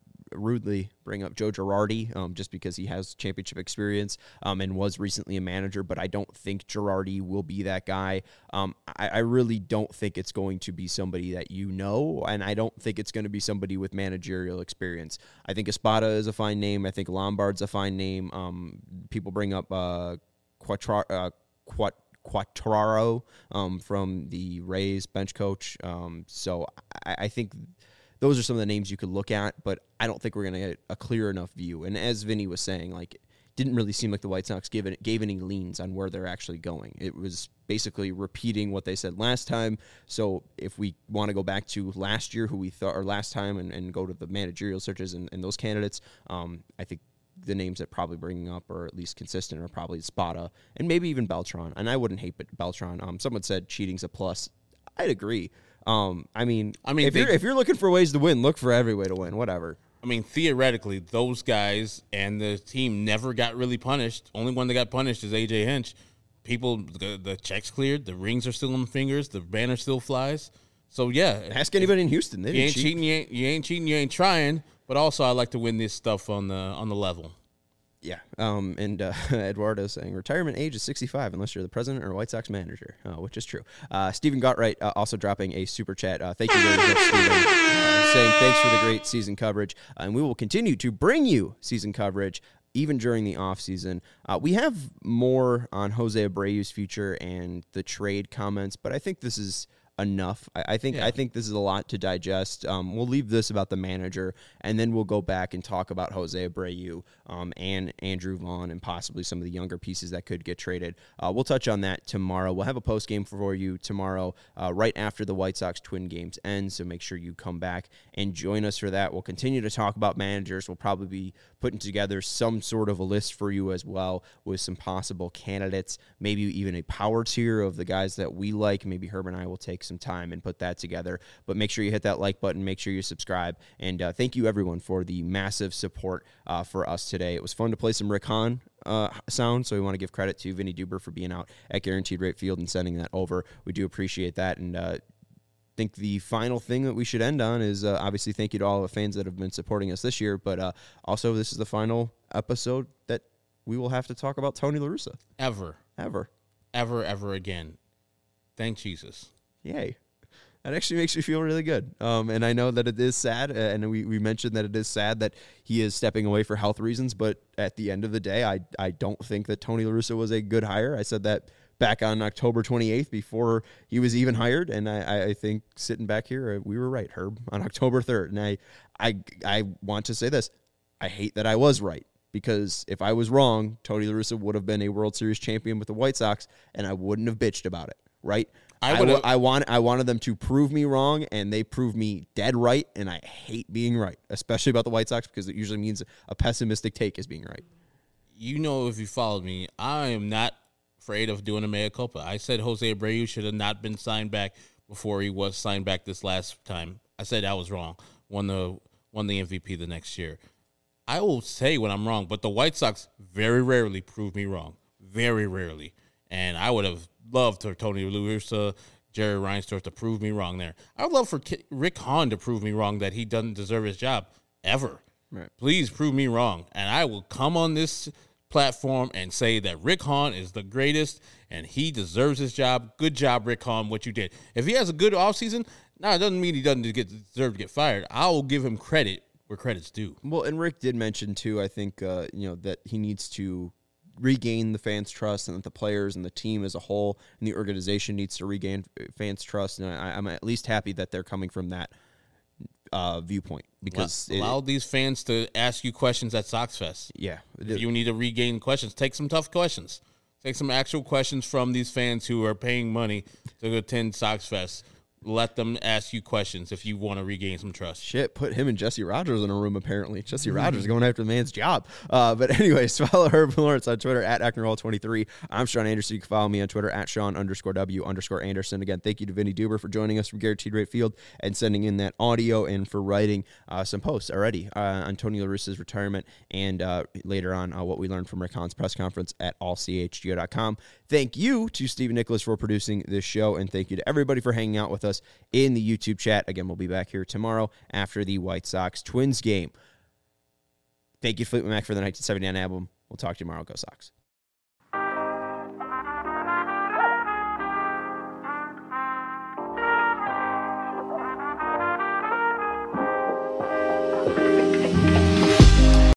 rudely bring up Joe Girardi um, just because he has championship experience um, and was recently a manager, but I don't think Girardi will be that guy. Um, I, I really don't think it's going to be somebody that you know, and I don't think it's going to be somebody with managerial experience. I think Espada is a fine name. I think Lombard's a fine name. Um, people bring up uh, Quattra, uh, Quat. Quattraro um, from the Rays bench coach. Um, so I, I think those are some of the names you could look at, but I don't think we're going to get a clear enough view. And as Vinny was saying, like, it didn't really seem like the White Sox gave, it, gave any leans on where they're actually going. It was basically repeating what they said last time. So if we want to go back to last year, who we thought, or last time, and, and go to the managerial searches and, and those candidates, um, I think the names that probably bringing up, or at least consistent, are probably Spada and maybe even Beltran. And I wouldn't hate Beltran. Um, someone said cheating's a plus. I'd agree. Um, I mean, I mean, if they, you're if you're looking for ways to win, look for every way to win. Whatever. I mean, theoretically, those guys and the team never got really punished. Only one that got punished is A J Hinch. People, the, the checks cleared, the rings are still on the fingers, the banner still flies. So yeah, ask anybody in Houston. They you didn't ain't cheat. cheating. You ain't, you ain't cheating. You ain't trying. But also, I like to win this stuff on the on the level. Yeah, um, and uh, Eduardo saying retirement age is sixty-five unless you're the president or White Sox manager, uh, which is true. Uh, Stephen Gottright uh, also dropping a super chat. Uh, thank you very much, Stephen, uh, saying thanks for the great season coverage, uh, and we will continue to bring you season coverage even during the offseason. Uh, we have more on Jose Abreu's future and the trade comments, but I think this is enough. I, I think yeah. I think this is a lot to digest. Um, we'll leave this about the manager, and then we'll go back and talk about Jose Abreu um, and Andrew Vaughn and possibly some of the younger pieces that could get traded. Uh, we'll touch on that tomorrow. We'll have a post game for you tomorrow, uh, right after the White Sox Twin games end. So make sure you come back and join us for that. We'll continue to talk about managers. We'll probably be putting together some sort of a list for you as well with some possible candidates, maybe even a power tier of the guys that we like. Maybe Herb and I will take some time and put that together, but make sure you hit that like button, make sure you subscribe, and uh, thank you everyone for the massive support uh, for us today. It was fun to play some Rick Hahn uh, sound, so we want to give credit to Vinny Duber for being out at Guaranteed Rate Field and sending that over. We do appreciate that, and uh, think the final thing that we should end on is uh, obviously thank you to all the fans that have been supporting us this year, but uh, also this is the final episode that we will have to talk about Tony La Russa. Ever. Ever. Ever, ever again. Thank Jesus. Yay. That actually makes me feel really good. Um, and I know that it is sad, uh, and we, we mentioned that it is sad that he is stepping away for health reasons, but at the end of the day, I, I don't think that Tony La Russa was a good hire. I said that back on October twenty-eighth before he was even hired, and I, I think sitting back here, we were right, Herb, on October third. And I, I, I want to say this. I hate that I was right, because if I was wrong, Tony La Russa would have been a World Series champion with the White Sox, and I wouldn't have bitched about it, right? I, I, I, want, I wanted them to prove me wrong, and they proved me dead right, and I hate being right, especially about the White Sox, because it usually means a pessimistic take is being right. You know, if you followed me, I am not afraid of doing a mea culpa. I said Jose Abreu should have not been signed back before he was signed back this last time. I said I was wrong. Won the won the M V P the next year. I will say when I'm wrong, but the White Sox very rarely prove me wrong. Very rarely. And I would have loved for Tony La Russa, Jerry Reinsdorf to prove me wrong there. I would love for Rick Hahn to prove me wrong that he doesn't deserve his job ever. Right. Please prove me wrong. And I will come on this platform and say that Rick Hahn is the greatest and he deserves his job. Good job, Rick Hahn, what you did. If he has a good offseason, no, it doesn't mean he doesn't get, deserve to get fired. I will give him credit where credit's due. Well, and Rick did mention, too, I think, uh, you know, that he needs to regain the fans' trust, and that the players and the team as a whole and the organization needs to regain fans' trust. And I, I'm at least happy that they're coming from that uh, viewpoint, because allow, allow it, these fans to ask you questions at Sox Fest. Yeah, if you need to regain questions, take some tough questions. Take some actual questions from these fans who are paying money to attend Sox Fest. let them ask you questions if you want to regain some trust. Shit, put him and Jesse Rogers in a room, apparently. Jesse Rogers going after the man's job. Uh, but anyways, follow Herb Lawrence on Twitter at Acknerhall twenty-three. I'm Sean Anderson. You can follow me on Twitter at Sean underscore W underscore Anderson. Again, thank you to Vinny Duber for joining us from Guaranteed Rate Field and sending in that audio and for writing uh, some posts already uh, on Tony La Russa's retirement and uh, later on uh, what we learned from Rick Hahn's press conference at all c h g o dot com. Thank you to Stephen Nicholas for producing this show, and thank you to everybody for hanging out with us in the YouTube chat. Again, we'll be back here tomorrow after the White Sox Twins game. Thank you, Fleetwood Mac, for the nineteen seventy-nine album. We'll talk to you tomorrow. Go Sox.